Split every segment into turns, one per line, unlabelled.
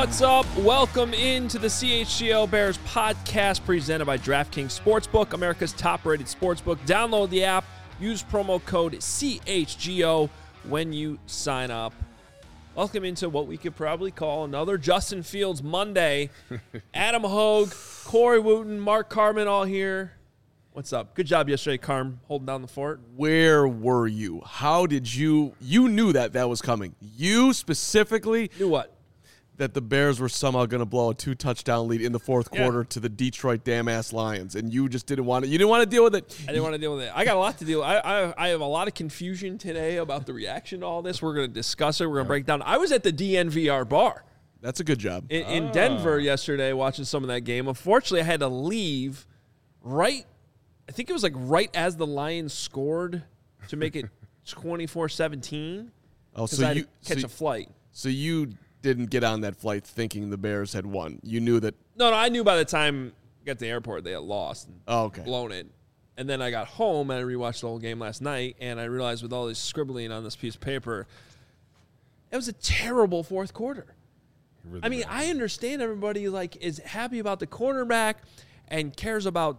What's up? Welcome into the CHGO Bears podcast presented by DraftKings Sportsbook, America's top-rated sportsbook. Download the app. Use promo code CHGO when you sign up. Welcome into what we could probably call another Justin Fields Monday. Adam Hogue, Corey Wooten, Mark Carman all here. What's up? Good job yesterday, Carm, holding down the fort.
Where were you? How did you knew that was coming. You specifically
knew what?
That the Bears were somehow going to blow a 2-touchdown lead in the fourth quarter to the Detroit damn-ass Lions, and you just didn't want to. You didn't want to deal with it.
I didn't want to deal with it. I got a lot to deal with. I have a lot of confusion today about the reaction to all this. We're going to discuss it. We're going to break down. I was at the DNVR bar.
That's a good job.
In Denver yesterday watching some of that game. Unfortunately, I had to leave right it was like right as the Lions scored to make it 24-17.
Oh, so you
catch a flight.
So you didn't get on that flight thinking the Bears had won. You knew that.
No, I knew by the time I got to the airport they had lost. And blown it. And then I got home and I rewatched the whole game last night, and I realized with all this scribbling on this piece of paper, it was a terrible fourth quarter. Really I understand everybody is happy about the quarterback and cares about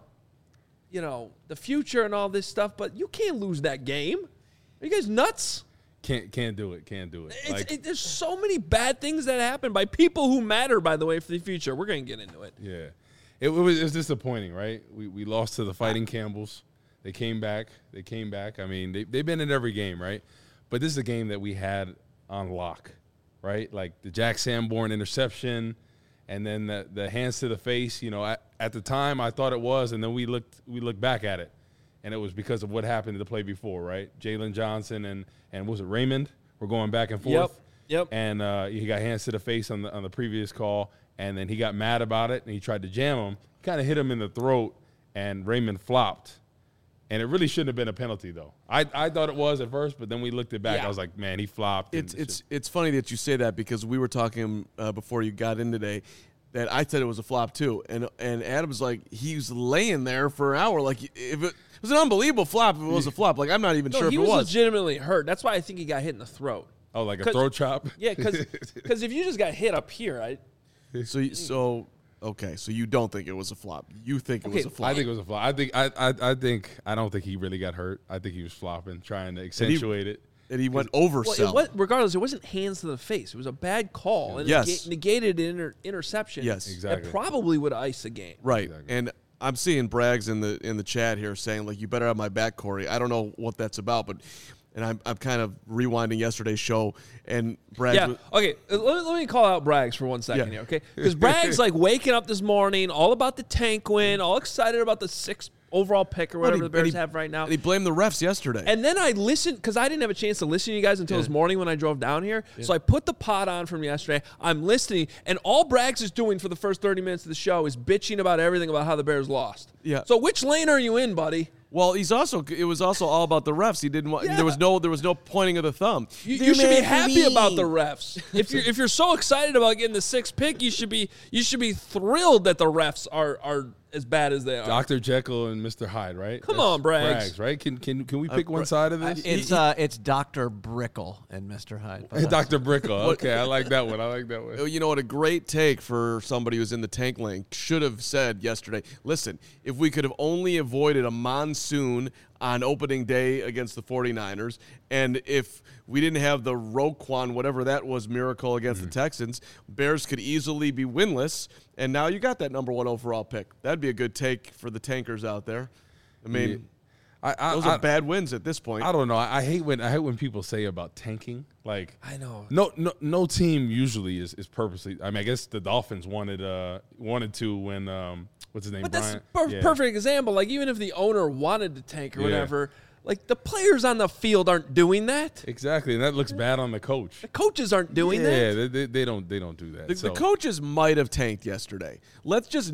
the future and all this stuff, but you can't lose that game. Are you guys nuts?
Can't do it.
There's so many bad things that happen by people who matter, by the way, for the future. We're going to get into it.
Yeah. It was disappointing, right? We lost to the Fighting Campbells. They came back. I mean, they've been in every game, right? But this is a game that we had on lock, right? Like the Jack Sanborn interception and then the hands to the face. At the time I thought it was, and then we looked back at it. And it was because of what happened to the play before, right? Jalen Johnson and was it Raymond? We're going back and forth.
Yep.
And he got hands to the face on the previous call, and then he got mad about it, and he tried to jam him. Kind of hit him in the throat, and Raymond flopped. And it really shouldn't have been a penalty, though. I thought it was at first, but then we looked it back. Yeah. I was like, man, he flopped.
It's funny that you say that because we were talking before you got in today that I said it was a flop too, and Adam's like he was laying there for an hour like if it was an unbelievable flop. If it was a flop, like I'm not even sure if it was.
He was legitimately hurt. That's why I think he got hit in the throat.
Oh, like a throat chop?
Yeah, because if you just got hit up here,
So you don't think it was a flop? You think it was a flop?
I think it was a flop. I don't think he really got hurt. I think he was flopping, trying to accentuate it.
And he went oversell.
Well, regardless, it wasn't hands to the face. It was a bad call. And it negated an interception.
Yes,
exactly.
It probably would ice a game.
Right.
Exactly.
And I'm seeing Braggs in the chat here saying, like, you better have my back, Corey. I don't know what that's about, but I'm kind of rewinding yesterday's show, and Braggs.
Yeah. Okay. Let me call out Braggs for 1 second here, okay? Because Braggs waking up this morning, all about the tank win, all excited about the 6th overall pick or whatever the Bears have right now.
And he blamed the refs yesterday.
And then I listened, because I didn't have a chance to listen to you guys until this morning when I drove down here. Yeah. So I put the pod on from yesterday. I'm listening, and all Braggs is doing for the first 30 minutes of the show is bitching about everything about how the Bears lost.
Yeah.
So which lane are you in, buddy?
Well, it was also all about the refs. He didn't want. Yeah. There was no pointing of the thumb.
You should be happy about the refs. If you're so excited about getting the 6th pick, you should be thrilled that the refs are as bad as they are.
Dr. Jekyll and Mr. Hyde, right?
Come on, Braggs.
Right? Can we pick one side of this?
It's Dr. Brickle and Mr. Hyde.
Dr. Brickle. Okay, I like that one.
You know what? A great take for somebody who's in the tank lane should have said yesterday, listen, if we could have only avoided a monsoon on opening day against the 49ers, and if we didn't have the Roquan, whatever that was, miracle against the Texans, Bears could easily be winless, and now you got that number 1 overall pick. That'd be a good take for the tankers out there. I mean, those are bad wins at this point.
I don't know. I hate when people say about tanking. Like,
I know.
No team usually is purposely. I mean, I guess the Dolphins wanted to when what's his name?
But
Bryant?
That's a perfect example. Like, even if the owner wanted to tank or whatever, like, the players on the field aren't doing that.
Exactly, and that looks bad on the coach.
The coaches aren't doing that.
Yeah, they don't do that.
The coaches might have tanked yesterday. Let's just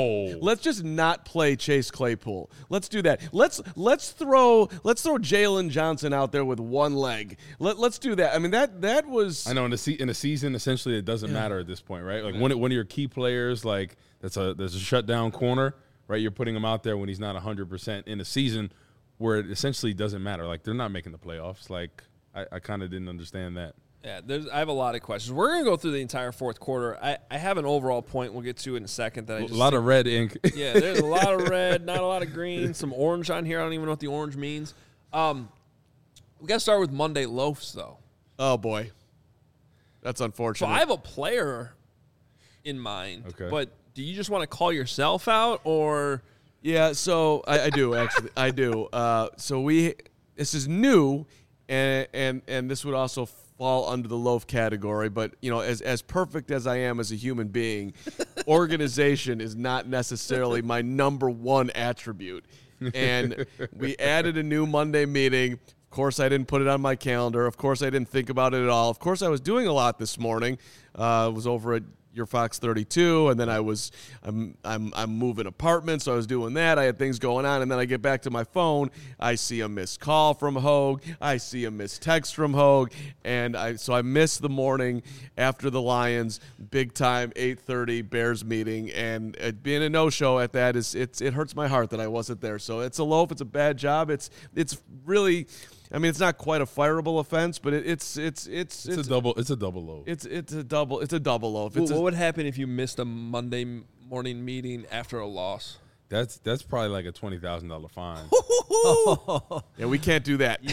not play Chase Claypool. Let's do that. Let's throw Jalen Johnson out there with one leg. Let's do that. I mean, that was.
I know in a season, essentially, it doesn't matter at this point, right? Like one of your key players, like there's a shutdown corner, right? You're putting him out there when he's not 100% in a season where it essentially doesn't matter. Like, they're not making the playoffs. Like, I kind of didn't understand that.
Yeah, I have a lot of questions. We're going to go through the entire fourth quarter. I have an overall point we'll get to in a second. That
a lot of red ink.
Yeah, there's a lot of red, not a lot of green, some orange on here. I don't even know what the orange means. We got to start with Monday loafs, though.
Oh, boy. That's unfortunate.
So I have a player in mind, but do you just want to call yourself out, or?
Yeah, so I do, actually. I do. So this is new, and this would also fall under the loaf category, but as perfect as I am as a human being, organization is not necessarily my number one attribute. And we added a new Monday meeting. Of course, I didn't put it on my calendar. Of course, I didn't think about it at all. Of course, I was doing a lot this morning. I was over at your Fox 32, and then I'm moving apartments, so I was doing that. I had things going on, and then I get back to my phone. I see a missed call from Hogue. I see a missed text from Hogue, and so I missed the morning after the Lions big time 8:30 Bears meeting, and being a no-show at that it hurts my heart that I wasn't there. So it's a loaf. It's a bad job. It's really. I mean, it's not quite a fireable offense, but it's a
double loaf.
It's a double loaf.
What would happen if you missed a Monday morning meeting after a loss?
That's probably like a $20,000 fine.
Yeah, we can't do that.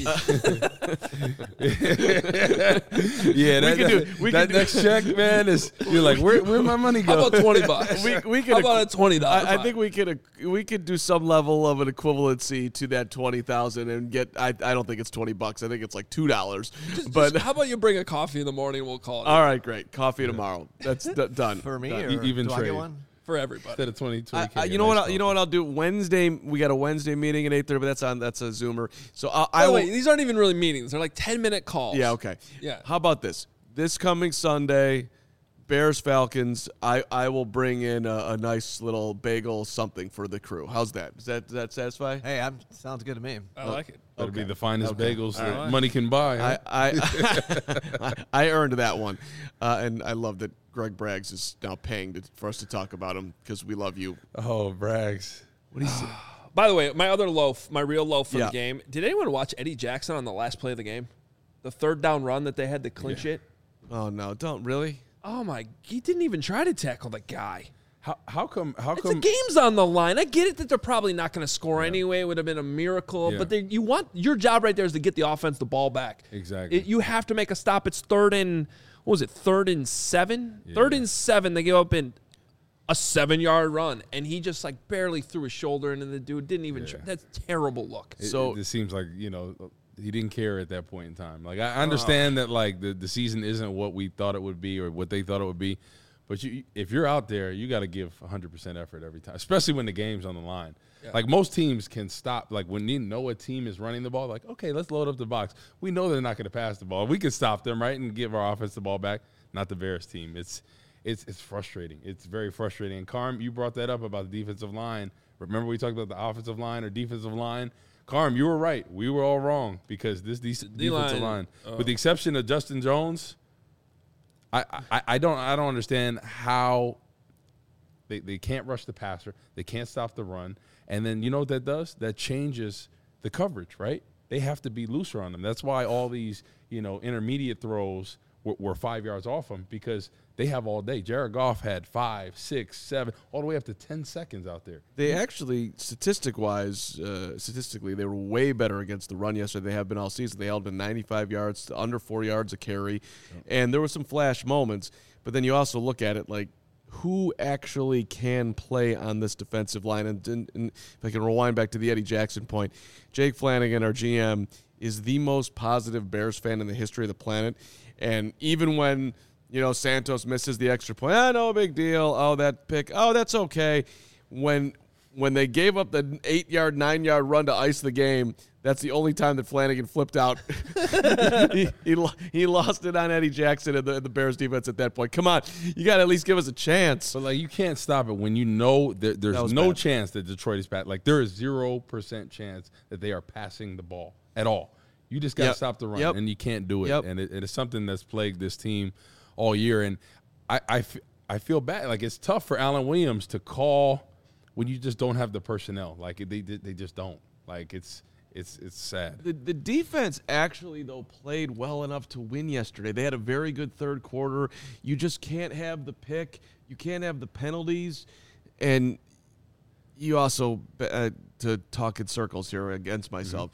Yeah, that next check, man, you're like, where'd my money go?
How about $20? How about a $20?
I think we could do some level of an equivalency to that $20,000 and get. I don't think it's $20. I think it's like $2. But
how about you bring a coffee in the morning? We'll call it.
All right, great. Coffee tomorrow. That's done
For me,
done.
or
Even
do
trade.
I get one?
For everybody.
Instead of 20
you know what I'll do? Wednesday, we got a Wednesday meeting at 8:30, but that's a Zoomer. So
wait, these aren't even really meetings. They're like 10-minute calls.
Yeah, okay.
Yeah.
How about this? This coming Sunday, Bears Falcons. I will bring in a nice little bagel something for the crew. How's that? Does that satisfy?
Hey, sounds good to me.
I like it.
That'll be the finest bagels that money can buy. Huh?
I earned that one, and I love that Greg Braggs is now paying for us to talk about him because we love you.
Oh, Braggs.
What do you say?
By the way, my other loaf, my real loaf from the game. Did anyone watch Eddie Jackson on the last play of the game? The third down run that they had to clinch it?
Oh, no. Don't really?
Oh, my. He didn't even try to tackle the guy.
How come?
The game's on the line. I get it that they're probably not going to score anyway. It would have been a miracle.
Yeah.
But your job right there is to get the offense the ball back.
Exactly.
You have to make a stop. It's third and 7? Yeah. 3rd and 7. They give up in a 7-yard run, and he just like barely threw his shoulder into the dude. Didn't even try. That's a terrible look.
It seems like, he didn't care at that point in time. Like, I understand that, like, the season isn't what we thought it would be or what they thought it would be. But if you're out there, you got to give 100% effort every time, especially when the game's on the line. Yeah. Like, most teams can stop. Like, when you know a team is running the ball, like, okay, let's load up the box. We know they're not going to pass the ball. We can stop them, right, and give our offense the ball back. Not the Bears team. It's frustrating. It's very frustrating. And, Carm, you brought that up about the defensive line. Remember we talked about the offensive line or defensive line? Carm, you were right. We were all wrong because this defensive line, with the exception of Justin Jones, I don't understand how they can't rush the passer, they can't stop the run, and then you know what that does? That changes the coverage, right? They have to be looser on them. That's why all these intermediate throws were 5 yards off them because they have all day. Jared Goff had 5, 6, 7, all the way up to 10 seconds out there.
They actually, statistically, they were way better against the run yesterday. They have been all season. They held to 95 yards to under 4 yards a carry, and there were some flash moments. But then you also look at it like, who actually can play on this defensive line? And if I can rewind back to the Eddie Jackson point, Jake Flanagan, our GM, is the most positive Bears fan in the history of the planet. And even when Santos misses the extra point, no big deal. Oh, that pick. Oh, that's okay. When they gave up the 8-yard, 9-yard run to ice the game, that's the only time that Flanagan flipped out. he lost it on Eddie Jackson and the Bears defense at that point. Come on, you got to at least give us a chance.
But you can't stop it when there's no chance that Detroit is bad. Like, there is 0% chance that they are passing the ball at all. You just got to stop the run, and you can't do it. And it is something that's plagued this team all year. And I feel bad. Like, it's tough for Alan Williams to call when you just don't have the personnel. Like, they just don't. Like, it's it's sad.
The defense actually, though, played well enough to win yesterday. They had a very good third quarter. You just can't have the pick. You can't have the penalties. And you also, to talk in circles here against myself,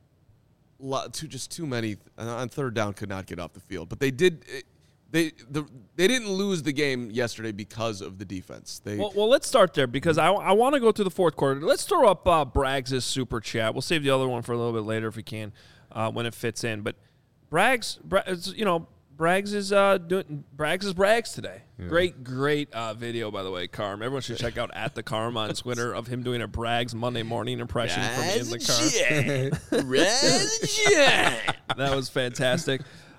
too many on third down could not get off the field. But they did. They didn't lose the game yesterday because of the defense.
Well, let's start there because I want to go through the fourth quarter. Let's throw up Braggs' super chat. We'll save the other one for a little bit later if we can, when it fits in. But Braggs is Braggs today. Yeah. Great video, by the way, Carm. Everyone should check out @thecarm on Twitter of him doing a Braggs Monday morning impression from in the car. That was fantastic.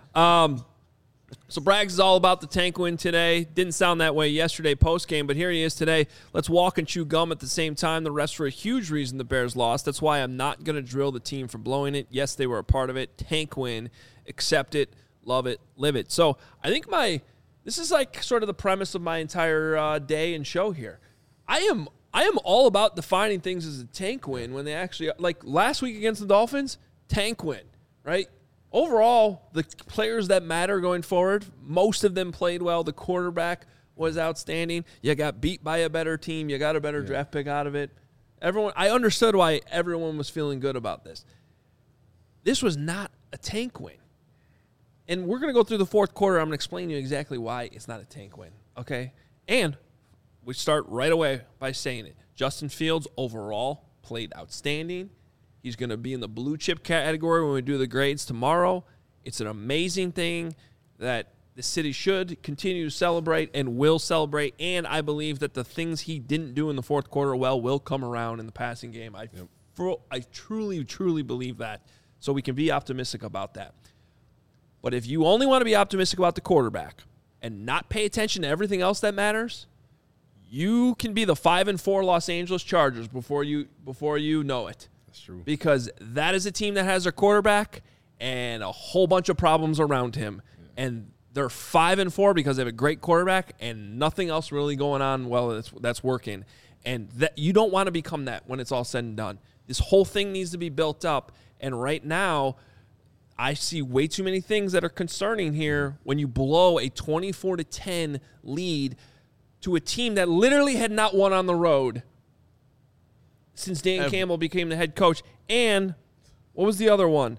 So Braggs is all about the tank win today. Didn't sound that way yesterday post-game, but here he is today. Let's walk and chew gum at the same time. The refs were a huge reason the Bears lost. That's why I'm not going to drill the team for blowing it. Yes, they were a part of it. Tank win. Accept it. Love it. Live it. So I think this is like sort of the premise of my entire day and show here. I am all about defining things as a tank win when they actually, like last week against the Dolphins, tank win, right? Overall, the players that matter going forward, most of them played well. The quarterback was outstanding. You got beat by a better team. You got a better draft pick out of it. I understood why everyone was feeling good about this. This was not a tank win. And we're going to go through the fourth quarter. I'm going to explain to you exactly why it's not a tank win, okay? And we start right away by saying it. Justin Fields overall played outstanding. He's going to be in the blue chip category when we do the grades tomorrow. It's an amazing thing that the city should continue to celebrate and will celebrate. And I believe that the things he didn't do in the fourth quarter will come around in the passing game. I truly, truly believe that. So we can be optimistic about that. But if you only want to be optimistic about the quarterback and not pay attention to everything else that matters, you can be the 5-4 Los Angeles Chargers before you know it.
That's true.
Because that is a team that has their quarterback and a whole bunch of problems around him. Yeah. And they're 5-4 because they have a great quarterback and nothing else really going on that's working. And that you don't want to become that when it's all said and done. This whole thing needs to be built up. And right now, I see way too many things that are concerning here when you blow a 24-10 lead to a team that literally had not won on the road since Dan Campbell became the head coach. And what was the other one?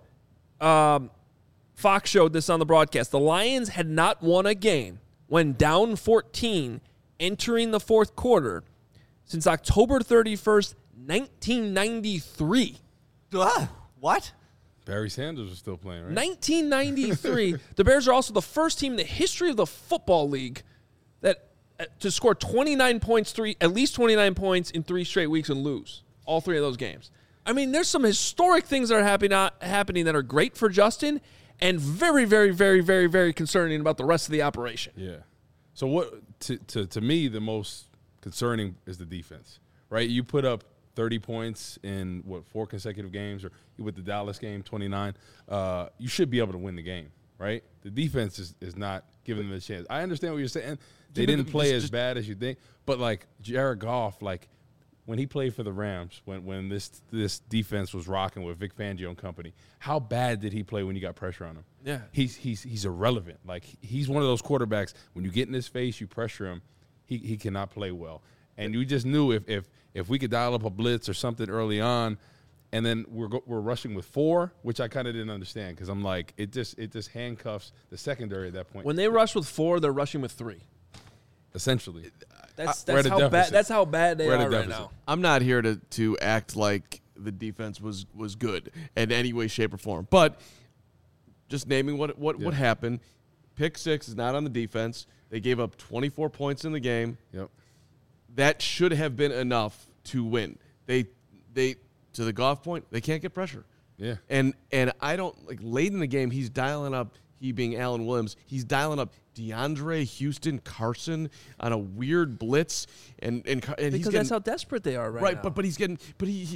Fox showed this on the broadcast. The Lions had not won a game when down 14 entering the fourth quarter since October 31st, 1993.
What?
Barry Sanders was still playing, right?
1993. The Bears are also the first team in the history of the football league that to score 29 points, at least 29 points in 3 straight weeks and lose all 3 of those games. I mean, there's some historic things that are happening that are great for Justin and very, very, very, very, very concerning about the rest of the operation.
Yeah. So what to me the most concerning is the defense, right? You put up 30 points in 4 consecutive games, or with the Dallas game 29. You should be able to win the game, right? The defense is not giving them a chance. I understand what you're saying. They didn't play as bad as you think, but like Jared Goff, like when he played for the Rams, when this defense was rocking with Vic Fangio and company, how bad did he play when you got pressure on him?
Yeah,
he's irrelevant. Like he's one of those quarterbacks when you get in his face, you pressure him, he cannot play well. And you just knew if we could dial up a blitz or something early on, and then we're rushing with 4, which I kind of didn't understand because I'm like it just handcuffs the secondary at that point.
When they rush with 4, they're rushing with 3.
Essentially,
that's how bad. That's how bad they are right now.
I'm not here to act like the defense was good in any way, shape, or form, but just naming what happened. Pick 6 is not on the defense. They gave up 24 points in the game.
Yep.
That should have been enough to win. They to the Goff point, they can't get pressure.
Yeah.
And I don't like late in the game, he's dialing up, he being Alan Williams, he's dialing up DeAndre Houston Carson on a weird blitz and
because
he's
that's how desperate they are right now.
But he's getting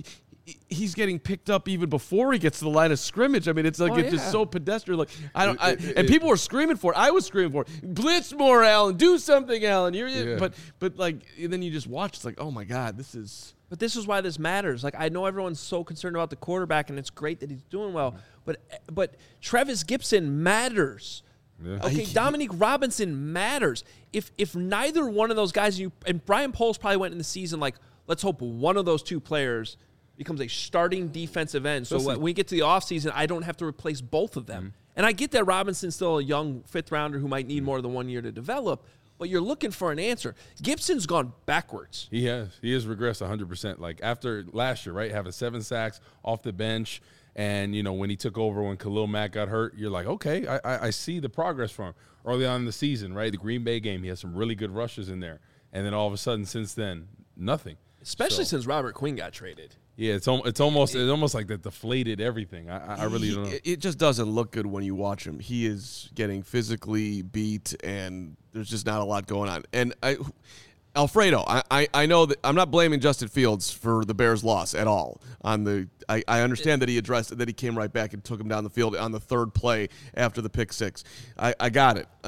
he's getting picked up even before he gets to the line of scrimmage. I mean, it's like just so pedestrian. Like and people were screaming for it. I was screaming for it. Blitz more, Allen. Do something, Allen. But like then you just watch. It's like, oh my God, this is.
But this is why this matters. Like, I know everyone's so concerned about the quarterback, and it's great that he's doing well. But Trevis Gipson matters. Yeah. Okay, Dominique Robinson matters. If neither one of those guys, and Brian Poles probably went in the season like, let's hope one of those two players becomes a starting defensive end. So when we get to the offseason, I don't have to replace both of them. Mm-hmm. And I get that Robinson's still a young fifth-rounder who might need more than 1 year to develop, but you're looking for an answer. Gibson's gone backwards.
He has. He has regressed 100%. Like after last year, right, having 7 sacks off the bench, and, when he took over when Khalil Mack got hurt, you're like, okay, I see the progress from him. Early on in the season, right, the Green Bay game, he had some really good rushes in there. And then all of a sudden, since then, nothing.
Especially since Robert Quinn got traded.
Yeah, it's almost like that deflated everything. I really don't know.
It just doesn't look good when you watch him. He is getting physically beat, and there's just not a lot going on. And Alfredo, I know that I'm not blaming Justin Fields for the Bears' loss at all. I understand that he addressed it, that he came right back and took him down the field on the third play after the pick six. I got it.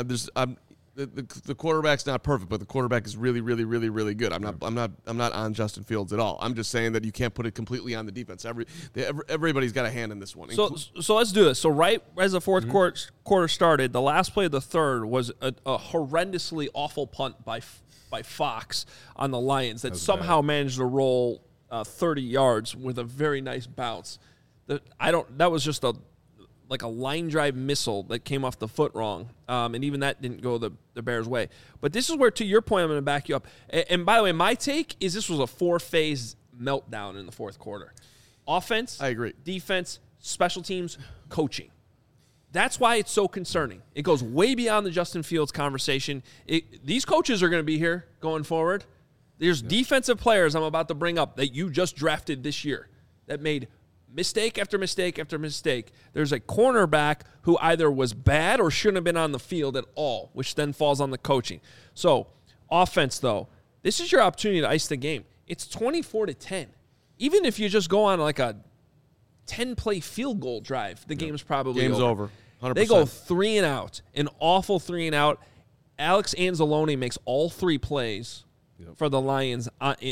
The quarterback's not perfect, but the quarterback is really, really, really, really good. I'm not on Justin Fields at all. I'm just saying that you can't put it completely on the defense. Everybody's got a hand in this one.
So let's do this. So right as the fourth quarter started, the last play of the third was a horrendously awful punt by Fox on the Lions that somehow managed to roll 30 yards with a very nice bounce. That was just like a line drive missile that came off the foot wrong. And even that didn't go the Bears' way. But this is where, to your point, I'm going to back you up. And by the way, my take is this was a 4-phase meltdown in the fourth quarter. Offense,
I agree.
Defense, special teams, coaching. That's why it's so concerning. It goes way beyond the Justin Fields conversation. These coaches are going to be here going forward. There's defensive players I'm about to bring up that you just drafted this year that made mistake after mistake after mistake. There's a cornerback who either was bad or shouldn't have been on the field at all, which then falls on the coaching. So, offense, though, this is your opportunity to ice the game. It's 24-10. Even if you just go on like a 10-play field goal drive, the game's probably
over. 100%.
They go 3 and out, an awful 3 and out. Alex Anzalone makes all 3 plays for the Lions.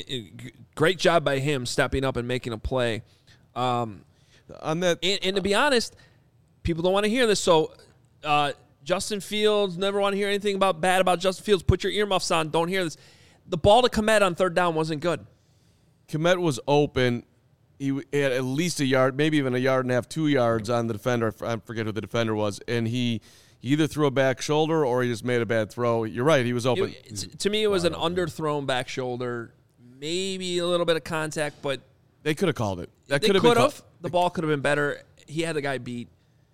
Great job by him stepping up and making a play. On that, and to be honest, people don't want to hear this. So, Justin Fields, never want to hear anything bad about Justin Fields. Put your earmuffs on. Don't hear this. The ball to Kmet on third down wasn't good.
Kmet was open. He had at least a yard, maybe even a yard and a half, 2 yards on the defender. I forget who the defender was, and he either threw a back shoulder or he just made a bad throw. You're right, he was open.
To me, it was an underthrown back shoulder, maybe a little bit of contact, but
they could have called it.
They could have. The ball could have been better. He had the guy beat.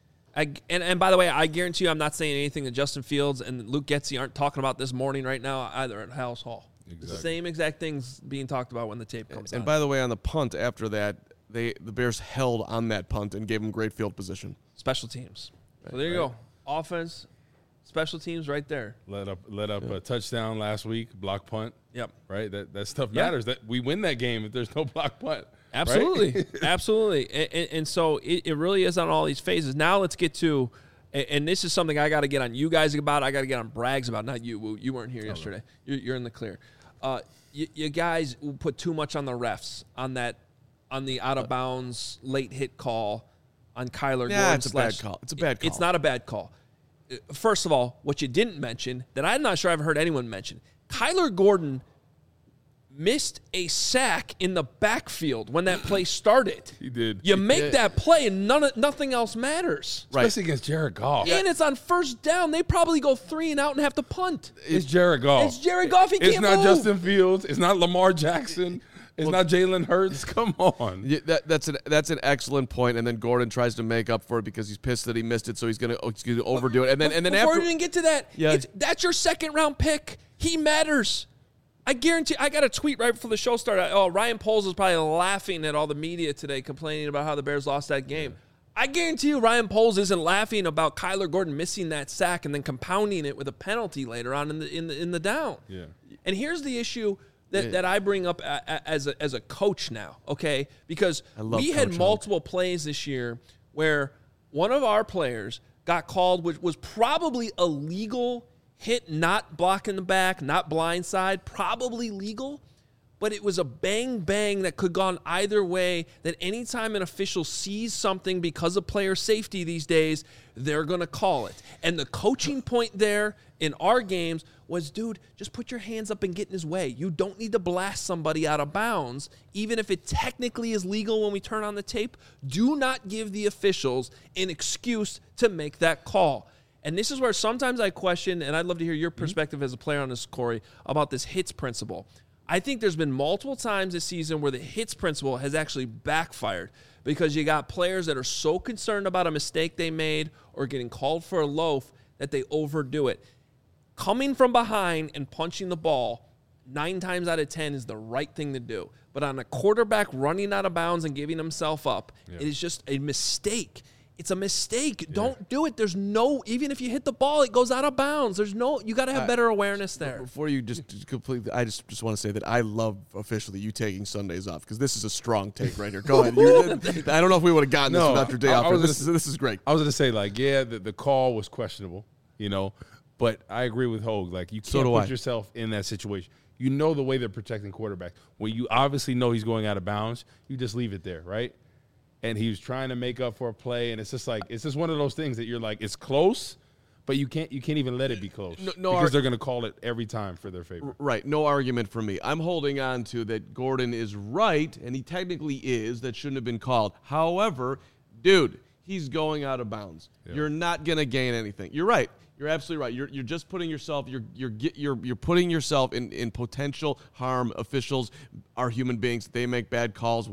And by the way, I guarantee you I'm not saying anything that Justin Fields and Luke Getsy aren't talking about this morning right now either at House Hall. Exactly. The same exact things being talked about when the tape comes out.
And by the way, on the punt after that, the Bears held on that punt and gave them great field position.
Special teams. So there you go. Offense, special teams right there.
Let up a touchdown last week, block punt.
Yep.
Right? That stuff matters. That we win that game if there's no block punt.
Absolutely.
Right?
Absolutely. And so it really is on all these phases. Now let's get to, and this is something I got to get on you guys about. I got to get on Braggs about. Not you. You weren't here yesterday. You're in the clear. You guys put too much on the refs on the out of bounds late hit call on Kyler Gordon.
It's a bad call. It's a bad call.
It's not a bad call. First of all, what you didn't mention that I'm not sure I've heard anyone mention, Kyler Gordon missed a sack in the backfield when that play started.
He did.
You make that play and nothing else matters.
Especially against Jared Goff.
And it's on first down. They probably go 3 and out and have to punt.
It's Jared Goff.
It's Jared Goff. He can't move.
It's not Justin Fields. It's not Lamar Jackson. It's not Jalen Hurts. Come on.
Yeah, that's an excellent point. And then Gordon tries to make up for it because he's pissed that he missed it, so he's going to overdo it. And then
before
after
we even get to that, that's your second round pick. He matters. I guarantee. I got a tweet right before the show started. Ryan Poles is probably laughing at all the media today, complaining about how the Bears lost that game. Yeah. I guarantee you, Ryan Poles isn't laughing about Kyler Gordon missing that sack and then compounding it with a penalty later on in the down.
Yeah.
And here's the issue that I bring up as a coach now, okay? Because we had multiple plays this year where one of our players got called, which was probably a legal hit, not blocking the back, not blindside, probably legal. But it was a bang that could have gone either way, that anytime an official sees something because of player safety these days, they're going to call it. And the coaching point there in our games was, dude, just put your hands up and get in his way. You don't need to blast somebody out of bounds, even if it technically is legal when we turn on the tape. Do not give the officials an excuse to make that call. And this is where sometimes I question, and I'd love to hear your perspective as a player on this, Corey, about this hits principle. I think there's been multiple times this season where the hits principle has actually backfired because you got players that are so concerned about a mistake they made or getting called for a loaf that they overdo it. Coming from behind and punching the ball 9 times out of 10 is the right thing to do. But on a quarterback running out of bounds and giving himself up, it is just a mistake. It's a mistake. Yeah. Don't do it. There's no, even if you hit the ball, it goes out of bounds. There's no, you got to have better awareness there.
Before you just completely, I just want to say that I love officially you taking Sundays off because this is a strong take right here. Go ahead. I don't know if we would have gotten this without your day off. This is great.
I was going to say, like, the call was questionable, but I agree with Hogue. Like, you can't put yourself in that situation. You know the way they're protecting quarterback. When you obviously know he's going out of bounds, you just leave it there, right? And he was trying to make up for a play, and it's just one of those things that you're like, it's close, but you can't even let it be close because they're going to call it every time for their favor.
Right, no argument for me. I'm holding on to that Gordon is right, and he technically is. That shouldn't have been called. However, dude, he's going out of bounds. Yeah. You're not going to gain anything. You're right. You're absolutely right. You're just putting yourself. You're putting yourself in potential harm. Officials are human beings. They make bad calls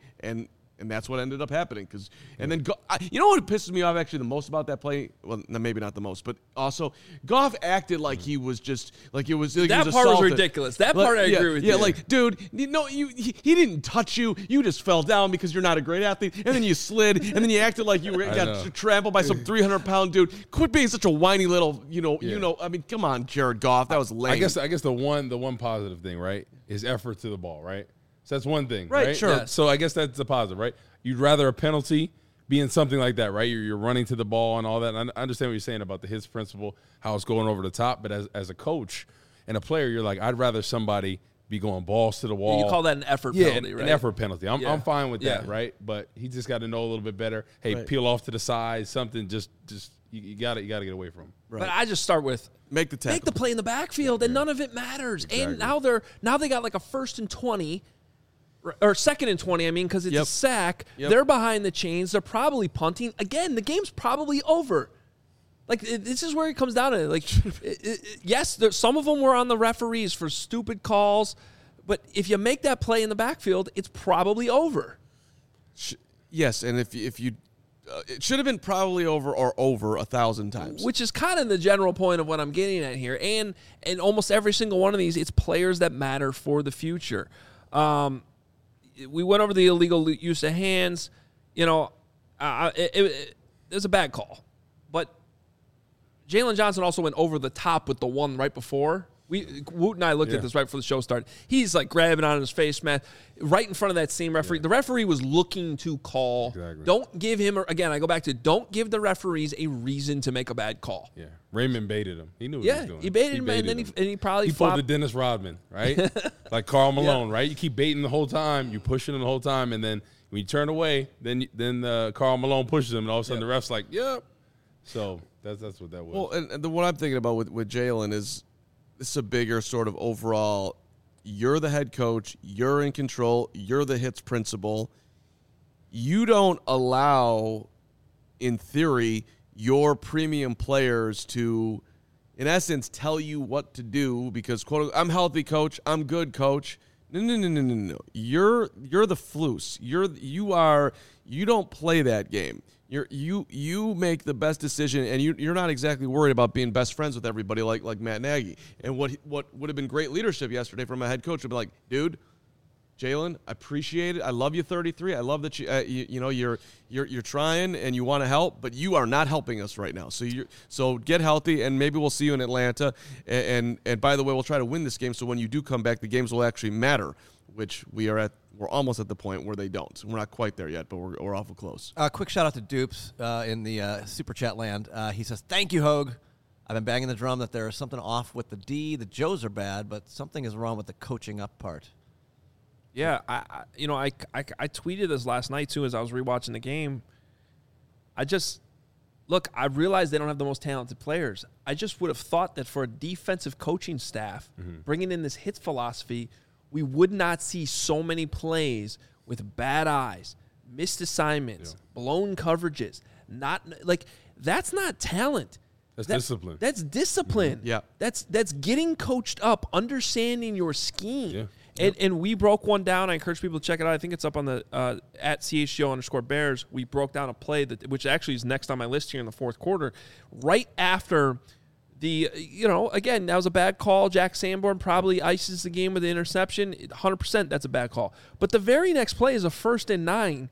and that's what ended up happening. And then, you know what pisses me off actually the most about that play? Well, maybe not the most, but also Goff acted like he was just like it was. Like
that part was ridiculous. That part I agree with you.
Yeah, like, dude, he didn't touch you. You just fell down because you're not a great athlete, and then you slid, and then you acted like you got trampled by some 300-pound dude. Quit being such a whiny little, I mean, come on, Jared Goff, that was lame.
I guess the one positive thing, right, is effort to the ball, right? So that's one thing,
right? Sure.
Yeah. So I guess that's the positive, right? You'd rather a penalty be in something like that, right? You're running to the ball and all that. And I understand what you're saying about the hits principle, how it's going over the top. But as a coach and a player, you're like, I'd rather somebody be going balls to the wall.
You call that an effort penalty, right?
An effort penalty. I'm fine with that, right? But he just got to know a little bit better. Hey, peel off to the side, something. Just you got to get away from him.
Right. But I just start with
make the
play in the backfield, and none of it matters. Exactly. And now they got like a 1st and 20. Or 2nd and 20, because it's a sack. Yep. They're behind the chains. They're probably punting. Again, the game's probably over. Like, this is where it comes down to it. Like, yes, some of them were on the referees for stupid calls, but if you make that play in the backfield, it's probably over.
Yes, and if you it should have been probably over or over 1,000 times.
Which is kind of the general point of what I'm getting at here. And almost every single one of these, it's players that matter for the future. We went over the illegal use of hands. It was a bad call. But Jalen Johnson also went over the top with the one right before. Woot and I looked at this right before the show started. He's like grabbing on his face mask right in front of that same referee. Yeah. The referee was looking to call. Exactly. Don't give him, again, I go back to don't give the referees a reason to make a bad call.
Yeah. Raymond baited him. He knew what he was doing.
He baited him, and then he probably
pulled the Dennis Rodman, right? Like Karl Malone, right? You keep baiting the whole time. You pushing him the whole time, and then when you turn away, then Karl Malone pushes him, and all of a sudden the ref's like, yep. So that's what that was.
Well, and what I'm thinking about with Jalen is, this is a bigger sort of overall, you're the head coach, you're in control, you're the hits principal. You don't allow, in theory, your premium players to, in essence, tell you what to do because, quote, I'm healthy, coach, I'm good, coach. No. You're the floose. You don't play that game. You make the best decision, and you're not exactly worried about being best friends with everybody like Matt Nagy. And what would have been great leadership yesterday from a head coach would be like, dude, Jalen, I appreciate it. I love you, 33. I love that you're trying and you want to help, but you are not helping us right now. So get healthy, and maybe we'll see you in Atlanta. And by the way, we'll try to win this game, so when you do come back, the games will actually matter, which we're almost at the point where they don't. We're not quite there yet, but we're awful close.
Quick shout out to Dupes in the Super Chat land. He says, "Thank you, Hogue. I've been banging the drum that there is something off with the D. The Joes are bad, but something is wrong with the coaching up part."
Yeah, I tweeted this last night too as I was rewatching the game. I realize they don't have the most talented players. I just would have thought that for a defensive coaching staff, bringing in this hits philosophy, we would not see so many plays with bad eyes, missed assignments, blown coverages. That's not talent.
That's discipline.
That's discipline.
Yeah.
That's getting coached up, understanding your scheme. Yeah. And we broke one down. I encourage people to check it out. I think it's up on the at @CHGO_Bears. We broke down a play which actually is next on my list here in the fourth quarter, right after again, that was a bad call. Jack Sanborn probably ices the game with the interception. 100% that's a bad call. But the very next play is a 1st and 9.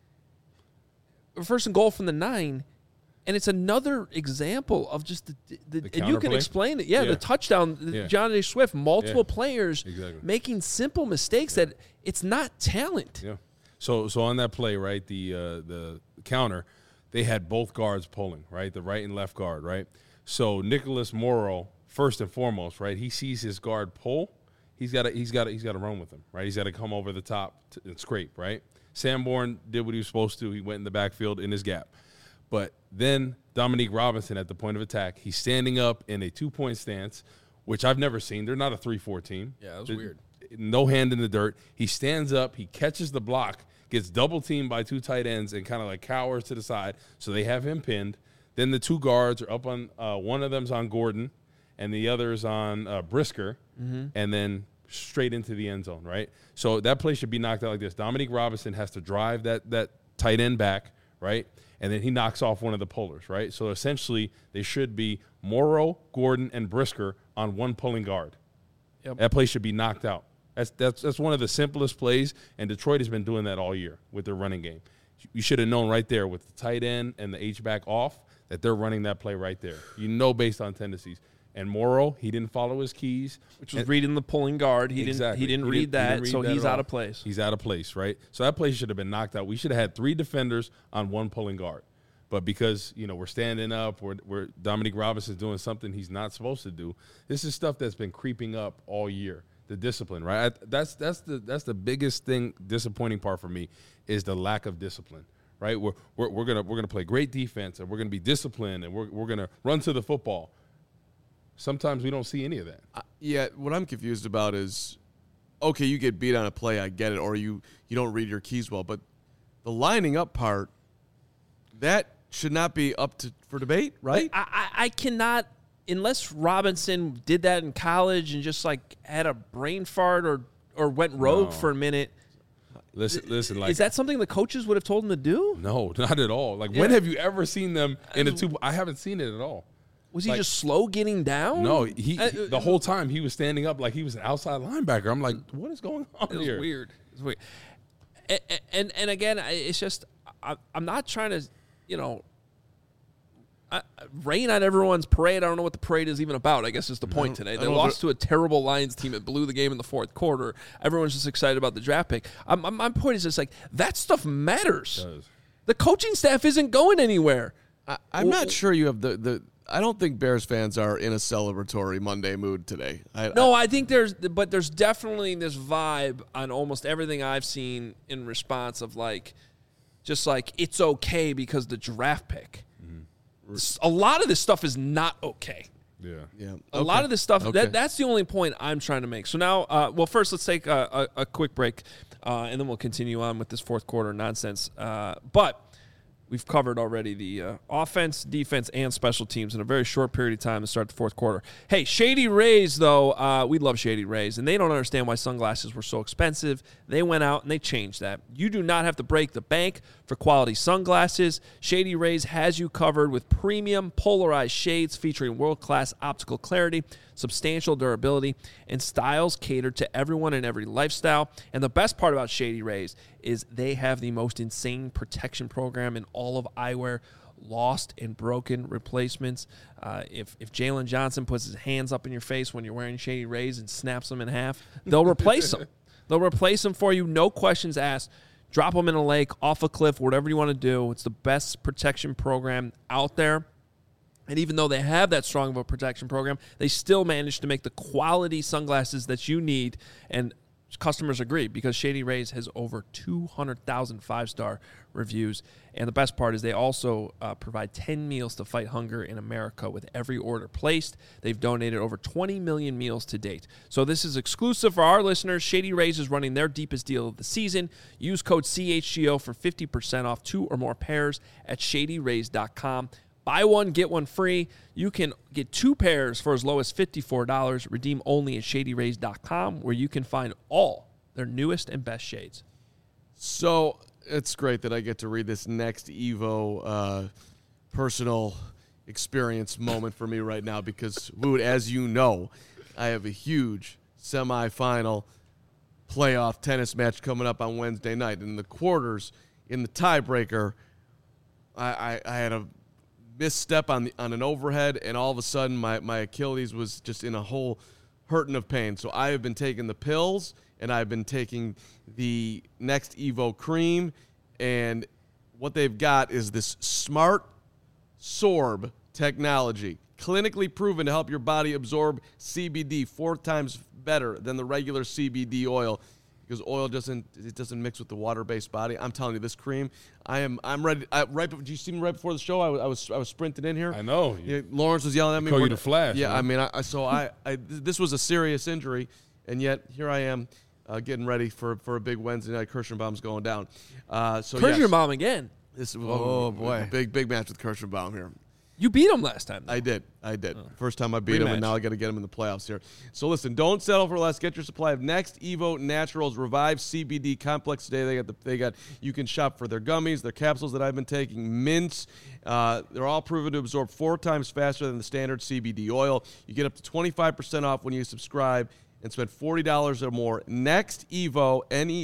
First and goal from the 9. And it's another example of just the and you can explain it. Yeah, the touchdown, John A. Swift, multiple players making simple mistakes that it's not talent.
Yeah. So on that play, right, the counter, they had both guards pulling, right, the right and left guard, right. So Nicholas Morrow, first and foremost, right, he sees his guard pull, he's got to run with him, right. He's got to come over the top and scrape, right. Sanborn did what he was supposed to. He went in the backfield in his gap. But then Dominique Robinson at the point of attack, he's standing up in a 2-point stance, which I've never seen. They're not a 3-4 team.
Yeah, that was weird.
No hand in the dirt. He stands up, he catches the block, gets double teamed by 2 tight ends, and kind of like cowers to the side. So they have him pinned. Then the 2 guards are up on one of them's on Gordon, and the other's on Brisker, and then straight into the end zone, right? So that play should be knocked out like this. Dominique Robinson has to drive that tight end back, right? And then he knocks off one of the pullers, right? So essentially, they should be Morrow, Gordon, and Brisker on one pulling guard. Yep. That play should be knocked out. That's one of the simplest plays, and Detroit has been doing that all year with their running game. You should have known right there with the tight end and the H-back off that they're running that play right there. You know based on tendencies. And Morrow, he didn't follow his keys.
Which was reading the pulling guard. He didn't read that, so he's out of place.
He's out of place, right? So that play should have been knocked out. We should have had 3 defenders on one pulling guard. But because, we're standing up, we're Dominique Robinson's doing something he's not supposed to do, this is stuff that's been creeping up all year. The discipline, right? That's the biggest thing, disappointing part for me, is the lack of discipline, right? We're gonna play great defense, and we're gonna be disciplined, and we're gonna run to the football. Sometimes we don't see any of that.
What I'm confused about is, okay, you get beat on a play, I get it, or you don't read your keys well, but the lining up part, that should not be up for debate, right?
I cannot, unless Robinson did that in college and just had a brain fart or went rogue for a minute.
Listen.
Is that something the coaches would have told him to do?
No, not at all. When have you ever seen them in a 2? I haven't seen it at all.
Was he just slow getting down?
No, the whole time he was standing up like he was an outside linebacker. I'm like, what is going on here?
It's weird. And again, it's just I'm not trying to, rain on everyone's parade. I don't know what the parade is even about, I guess is the point today. They lost to a terrible Lions team that blew the game in the fourth quarter. Everyone's just excited about the draft pick. My point is just that stuff matters. The coaching staff isn't going anywhere.
I'm not sure you have the I don't think Bears fans are in a celebratory Monday mood today.
I think there's definitely this vibe on almost everything I've seen in response of it's okay because the draft pick. Mm-hmm. A lot of this stuff is not okay.
Yeah.
Okay.
A lot of this stuff, that's the only point I'm trying to make. So now, first let's take a quick break, and then we'll continue on with this fourth quarter nonsense. But we've covered already the offense, defense, and special teams in a very short period of time to start the fourth quarter. Hey, Shady Rays, though, we love Shady Rays, and they don't understand why sunglasses were so expensive. They went out and they changed that. You do not have to break the bank for quality sunglasses. Shady Rays has you covered with premium polarized shades featuring world-class optical clarity, substantial durability, and styles catered to everyone and every lifestyle. And the best part about Shady Rays is they have the most insane protection program in all of eyewear, lost and broken replacements. If Jalen Johnson puts his hands up in your face when you're wearing Shady Rays and snaps them in half, they'll replace them. They'll replace them for you, no questions asked. Drop them in a lake, off a cliff, whatever you want to do. It's the best protection program out there. And even though they have that strong of a protection program, they still manage to make the quality sunglasses that you need. And customers agree because Shady Rays has over 200,000 five-star reviews. And the best part is they also provide 10 meals to fight hunger in America with every order placed. They've donated over 20 million meals to date. So this is exclusive for our listeners. Shady Rays is running their deepest deal of the season. Use code CHGO for 50% off 2 or more pairs at shadyrays.com. Buy one, get one free. You can get 2 pairs for as low as $54. Redeem only at shadyrays.com, where you can find all their newest and best shades.
So it's great that I get to read this next Evo personal experience moment for me right now because, Wood, as you know, I have a huge semifinal playoff tennis match coming up on Wednesday night. In the quarters, in the tiebreaker, I had a misstep on an overhead, and all of a sudden my Achilles was just in a whole hurting of pain. So I have been taking the pills, and I've been taking the next Evo cream, and what they've got is this Smart Sorb technology, clinically proven to help your body absorb CBD 4 times better than the regular CBD oil. Because oil doesn't mix with the water-based body. I'm telling you, this cream, I'm ready. Did you see me right before the show? I was sprinting in here.
I know.
Yeah, Lawrence was yelling at me.
Call you the Flash.
Yeah,
man.
I mean, this was a serious injury, and yet here I am getting ready for a big Wednesday night. Kirschenbaum's going down.
Kirschenbaum again.
This
boy,
big match with Kirschenbaum here.
You beat him last time, though.
I did. First time I beat him, and now I got to get him in the playoffs here. So listen, don't settle for less. Get your supply of Next Evo Naturals Revive CBD Complex today. They got. You can shop for their gummies, their capsules that I've been taking, mints. They're all proven to absorb 4 times faster than the standard CBD oil. You get up to 25% off when you subscribe and spend $40 or more. Next Evo,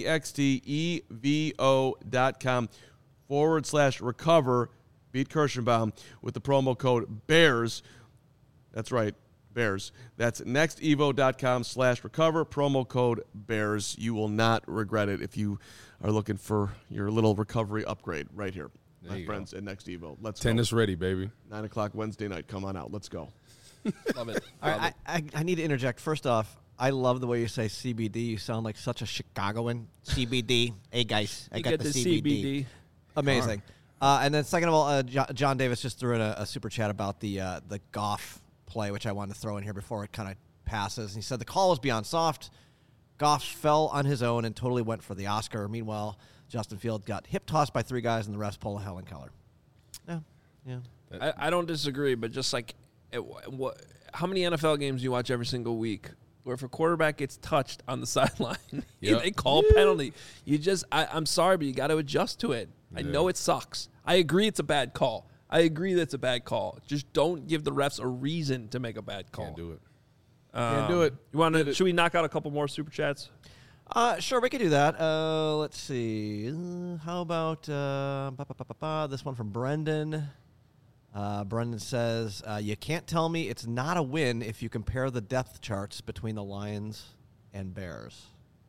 NEXTEVO.com/recover. Beat Kirschenbaum with the promo code BEARS. That's right, BEARS. That's nextevo.com/recover, promo code BEARS. You will not regret it if you are looking for your little recovery upgrade right here. My friends at Next Evo. Let's go.
Tennis ready, baby.
9 o'clock Wednesday night. Come on out. Let's go.
Love it.
All right, I need to interject. First off, I love the way you say CBD. You sound like such a Chicagoan. CBD. Hey, guys, I got the CBD. Amazing. And then second of all, John Davis just threw in a super chat about the Goff play, which I wanted to throw in here before it kind of passes. And he said the call was beyond soft. Goff fell on his own and totally went for the Oscar. Meanwhile, Justin Fields got hip-tossed by 3 guys, and the refs pulled a Helen Keller. Yeah.
I don't disagree, but just like how many NFL games do you watch every single week where if a quarterback gets touched on the sideline, they call penalty? I'm sorry, but you got to adjust to it. I know it sucks. I agree it's a bad call. Just don't give the refs a reason to make a bad call.
Can't do it.
Can't do it.
You want to? Should we knock out a couple more super chats?
Sure, we could do that. Let's see. How about this one from Brendan? Brendan says, you can't tell me it's not a win if you compare the depth charts between the Lions and Bears.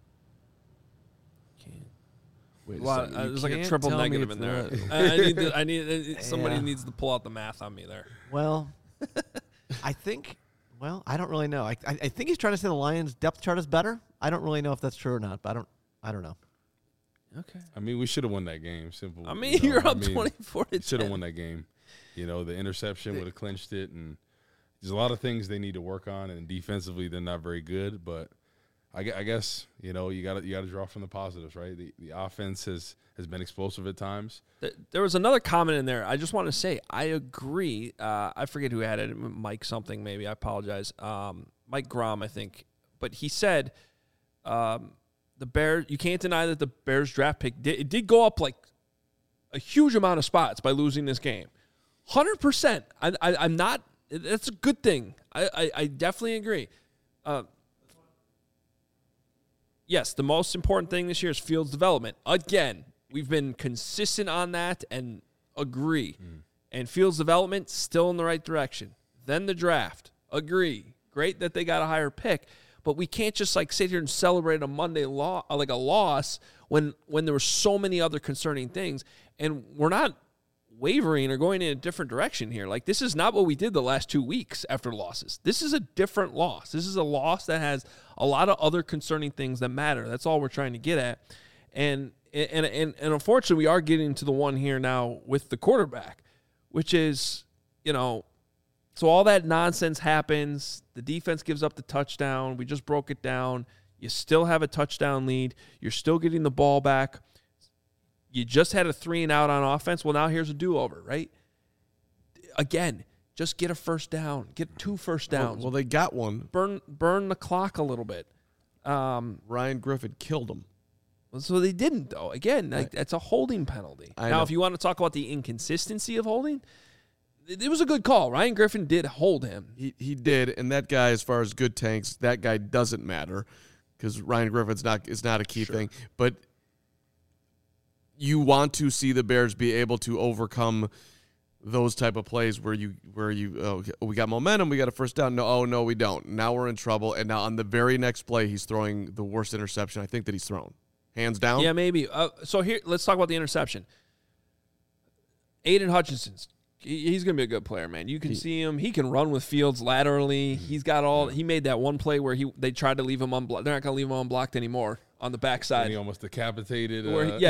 There's like a triple negative in there. Somebody needs to pull out the math on me there.
Well, I don't really know. I think he's trying to say the Lions' depth chart is better. I don't really know if that's true or not, but I don't know.
Okay.
I mean, we should have won that game. Simple.
I mean, you're up 24-10.
Should have won that game. The interception would have clinched it, and there's a lot of things they need to work on, and defensively they're not very good, but I guess you got to draw from the positives, right? The offense has been explosive at times.
There was another comment in there. I just want to say I agree. I forget who had it. Mike something maybe. I apologize. Mike Grom, I think. But he said the Bears. You can't deny that the Bears draft pick did go up like a huge amount of spots by losing this game. 100%. I'm not. That's a good thing. I definitely agree. Yes, the most important thing this year is Fields' development. Again, we've been consistent on that and agree. And Fields' development, still in the right direction. Then the draft. Agree. Great that they got a higher pick. But we can't just sit here and celebrate a Monday like a loss when there were so many other concerning things. And we're not wavering or going in a different direction here. This is not what we did the last 2 weeks after losses. This is a different loss. This is a loss that has a lot of other concerning things that matter. That's all we're trying to get at. And unfortunately, we are getting to the one here now with the quarterback, which is, so all that nonsense happens. The defense gives up the touchdown. We just broke it down. You still have a touchdown lead. You're still getting the ball back. You just had a 3-and-out on offense. Well, now here's a do-over, right? Again, just get a first down. Get 2 first downs.
Well, they got one.
Burn the clock a little bit.
Ryan Griffin killed him.
So they didn't, though. Again, that's a holding penalty. Now, if you want to talk about the inconsistency of holding, it was a good call. Ryan Griffin did hold him.
He did, and that guy, as far as good tanks, that guy doesn't matter because Ryan Griffin's is not a key thing. But you want to see the Bears be able to overcome those type of plays where we got momentum, we got a first down. No, we don't. Now we're in trouble. And now on the very next play, he's throwing the worst interception I think that he's thrown, hands down.
Yeah, maybe. So here, let's talk about the interception. Aiden Hutchinson's. He's going to be a good player, man. You can see him. He can run with Fields laterally. He's got all. He made that one play where they tried to leave him unblocked. They're not going to leave him unblocked anymore on the backside.
And he almost decapitated.